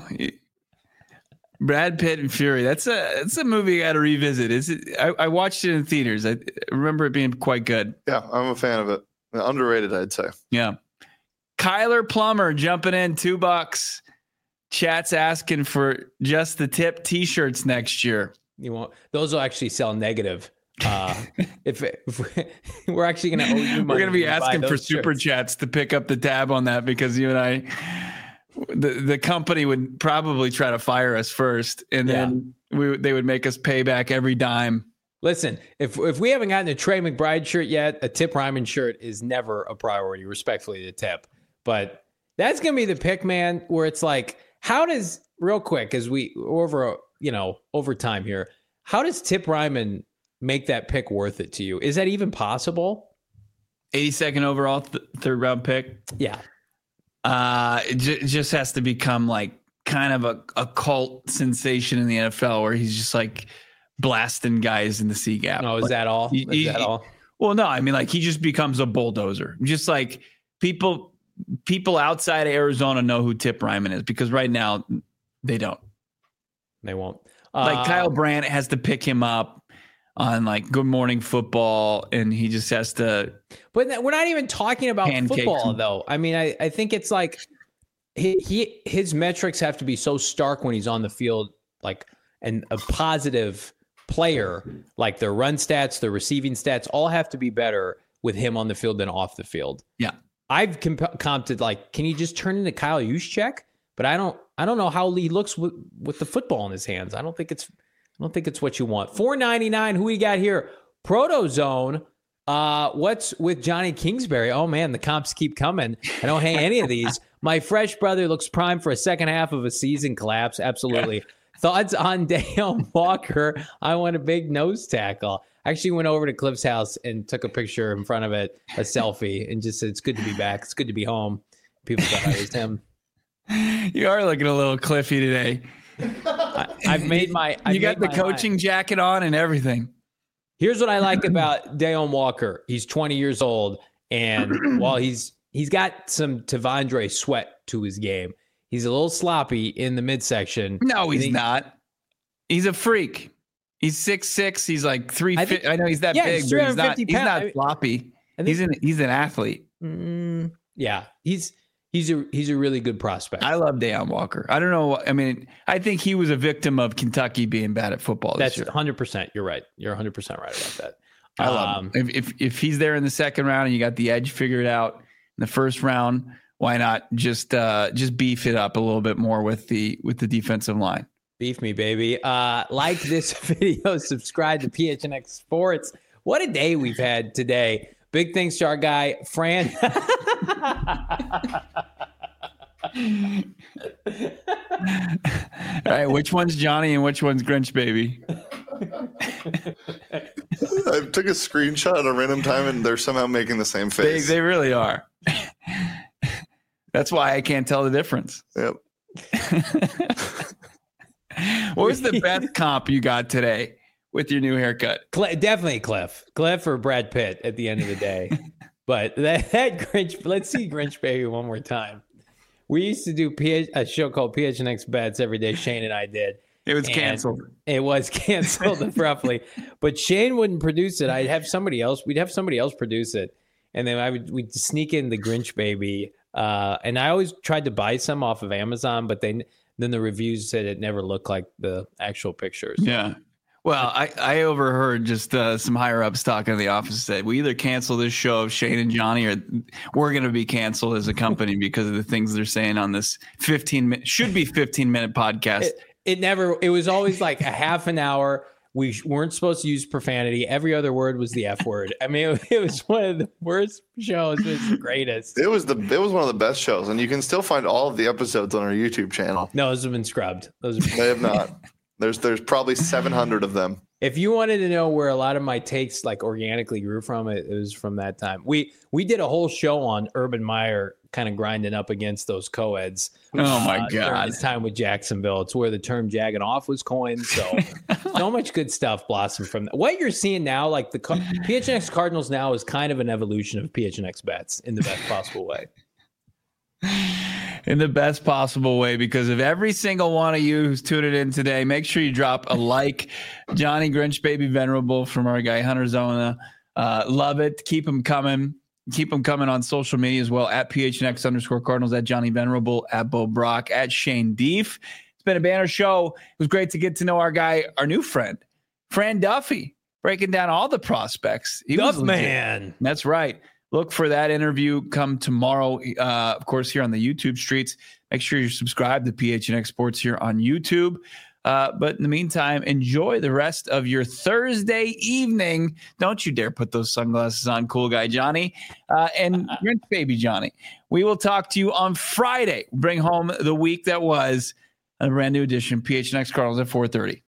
[SPEAKER 1] Brad Pitt and Fury. That's a movie I got to revisit. I watched it in theaters. I remember it being quite good.
[SPEAKER 3] Yeah, I'm a fan of it. Underrated, I'd say.
[SPEAKER 1] Yeah. Kyler Plummer jumping in $2. Chat's asking for just the tip T-shirts next year.
[SPEAKER 2] Those will actually sell negative. If we're actually going to owe you money,
[SPEAKER 1] we're going to be asking for super chats to pick up the tab on that, because you and I, the company would probably try to fire us first, and then they would make us pay back every dime.
[SPEAKER 2] Listen, if we haven't gotten a Trey McBride shirt yet, a Tip Ryman shirt is never a priority, respectfully to Tip. But that's going to be the pick, man, where it's like, how does, real quick, as we over time here, how does Tip Ryman make that pick worth it to you? Is that even possible?
[SPEAKER 1] 82nd overall, third round pick.
[SPEAKER 2] Yeah.
[SPEAKER 1] It just has to become kind of a cult sensation in the NFL, where he's just blasting guys in the C gap.
[SPEAKER 2] Oh, is that all? Is that all?
[SPEAKER 1] Well, no, I mean, he just becomes a bulldozer. Just people outside of Arizona know who Tip Ryman is, because right now they don't.
[SPEAKER 2] They won't.
[SPEAKER 1] Kyle Brandt has to pick him up on Good Morning Football, and he just has to.
[SPEAKER 2] But we're not even talking about football, though. I mean, I think it's his metrics have to be so stark when he's on the field, and a positive player, their run stats, their receiving stats, all have to be better with him on the field than off the field.
[SPEAKER 1] Yeah.
[SPEAKER 2] I've comped can he just turn into Kyle Juszczyk? But I don't know how he looks with the football in his hands. I don't think it's what you want. $4.99. Who we got here? Protozone. What's with Johnny Kingsbury? Oh man, the comps keep coming. I don't hang any of these. My fresh brother looks primed for a second half of a season collapse. Absolutely. Thoughts on Dale Walker? I want a big nose tackle. I actually went over to Cliff's house and took a picture in front of it, a selfie, and just said, it's good to be back. It's good to be home. People thought I was him.
[SPEAKER 1] You are looking a little Cliffy today.
[SPEAKER 2] I've made my...
[SPEAKER 1] You got the coaching jacket on and everything.
[SPEAKER 2] Here's what I like about Dale Walker. He's 20 years old, and while he's got some Tavondre Sweat to his game, he's a little sloppy in the midsection.
[SPEAKER 1] No, he's not. He's a freak. He's 6'6". He's 350. I know he's that big, but he's not floppy. He's an athlete.
[SPEAKER 2] Yeah, he's a really good prospect.
[SPEAKER 1] I love Deion Walker. I don't know. I mean, I think he was a victim of Kentucky being bad at football.
[SPEAKER 2] That's 100%. You're right. You're 100% right about that.
[SPEAKER 1] I love him. If he's there in the second round and you got the edge figured out in the first round, why not just beef it up a little bit more with the defensive line?
[SPEAKER 2] Beef me, baby. Like this video, subscribe to PHNX Sports. What a day we've had today. Big thanks to our guy, Fran.
[SPEAKER 1] All right, which one's Johnny and which one's Grinch baby?
[SPEAKER 3] I took a screenshot at a random time and they're somehow making the same face.
[SPEAKER 1] They really are. That's why I can't tell the difference.
[SPEAKER 3] Yep.
[SPEAKER 1] What was the best comp you got today with your new haircut?
[SPEAKER 2] Definitely Cliff or Brad Pitt at the end of the day. But that Grinch, let's see Grinch baby one more time. We used to do a show called PHNX Bets every day. Shane and I did.
[SPEAKER 1] It was canceled.
[SPEAKER 2] It was canceled abruptly, but Shane wouldn't produce it. We'd have somebody else produce it, and then we'd sneak in the Grinch baby. And I always tried to buy some off of Amazon, but then the reviews said it never looked like the actual pictures.
[SPEAKER 1] Yeah. Well, I overheard just some higher ups talking in the office said we either cancel this show of Shane and Johnny or we're going to be canceled as a company because of the things they're saying on this 15-minute podcast.
[SPEAKER 2] It was always like a half an hour. We weren't supposed to use profanity. Every other word was the F word. I mean, it was one of the worst shows. It was the greatest.
[SPEAKER 3] It was one of the best shows, and you can still find all of the episodes on our YouTube channel.
[SPEAKER 2] No, those have been scrubbed.
[SPEAKER 3] They have not. There's probably 700 of them.
[SPEAKER 2] If you wanted to know where a lot of my takes like organically grew from, it was from that time. We did a whole show on Urban Meyer kind of grinding up against those co-eds.
[SPEAKER 1] Oh my God.
[SPEAKER 2] During his time with Jacksonville. It's where the term jagging off was coined. So much good stuff blossomed from that. What you're seeing now, like the PHNX Cardinals now is kind of an evolution of PHNX Bets in the best possible way.
[SPEAKER 1] In the best possible way, because of every single one of you who's tuned in today, make sure you drop a like. Johnny Grinch Baby Venerable from our guy Hunter Zona. Love it. Keep them coming. Keep them coming on social media as well, at PHNX_Cardinals, at Johnny Venerable, at Bo Brock, at Shane Deef. It's been a banner show. It was great to get to know our guy, our new friend, Fran Duffy, breaking down all the prospects.
[SPEAKER 2] Duff man.
[SPEAKER 1] That's right. Look for that interview come tomorrow, of course, here on the YouTube streets. Make sure you're subscribed to PHNX Sports here on YouTube. But in the meantime, enjoy the rest of your Thursday evening. Don't you dare put those sunglasses on, cool guy Johnny, and Grinch baby Johnny. We will talk to you on Friday. Bring home the week that was a brand new edition, PHNX Cardinals at 4:30.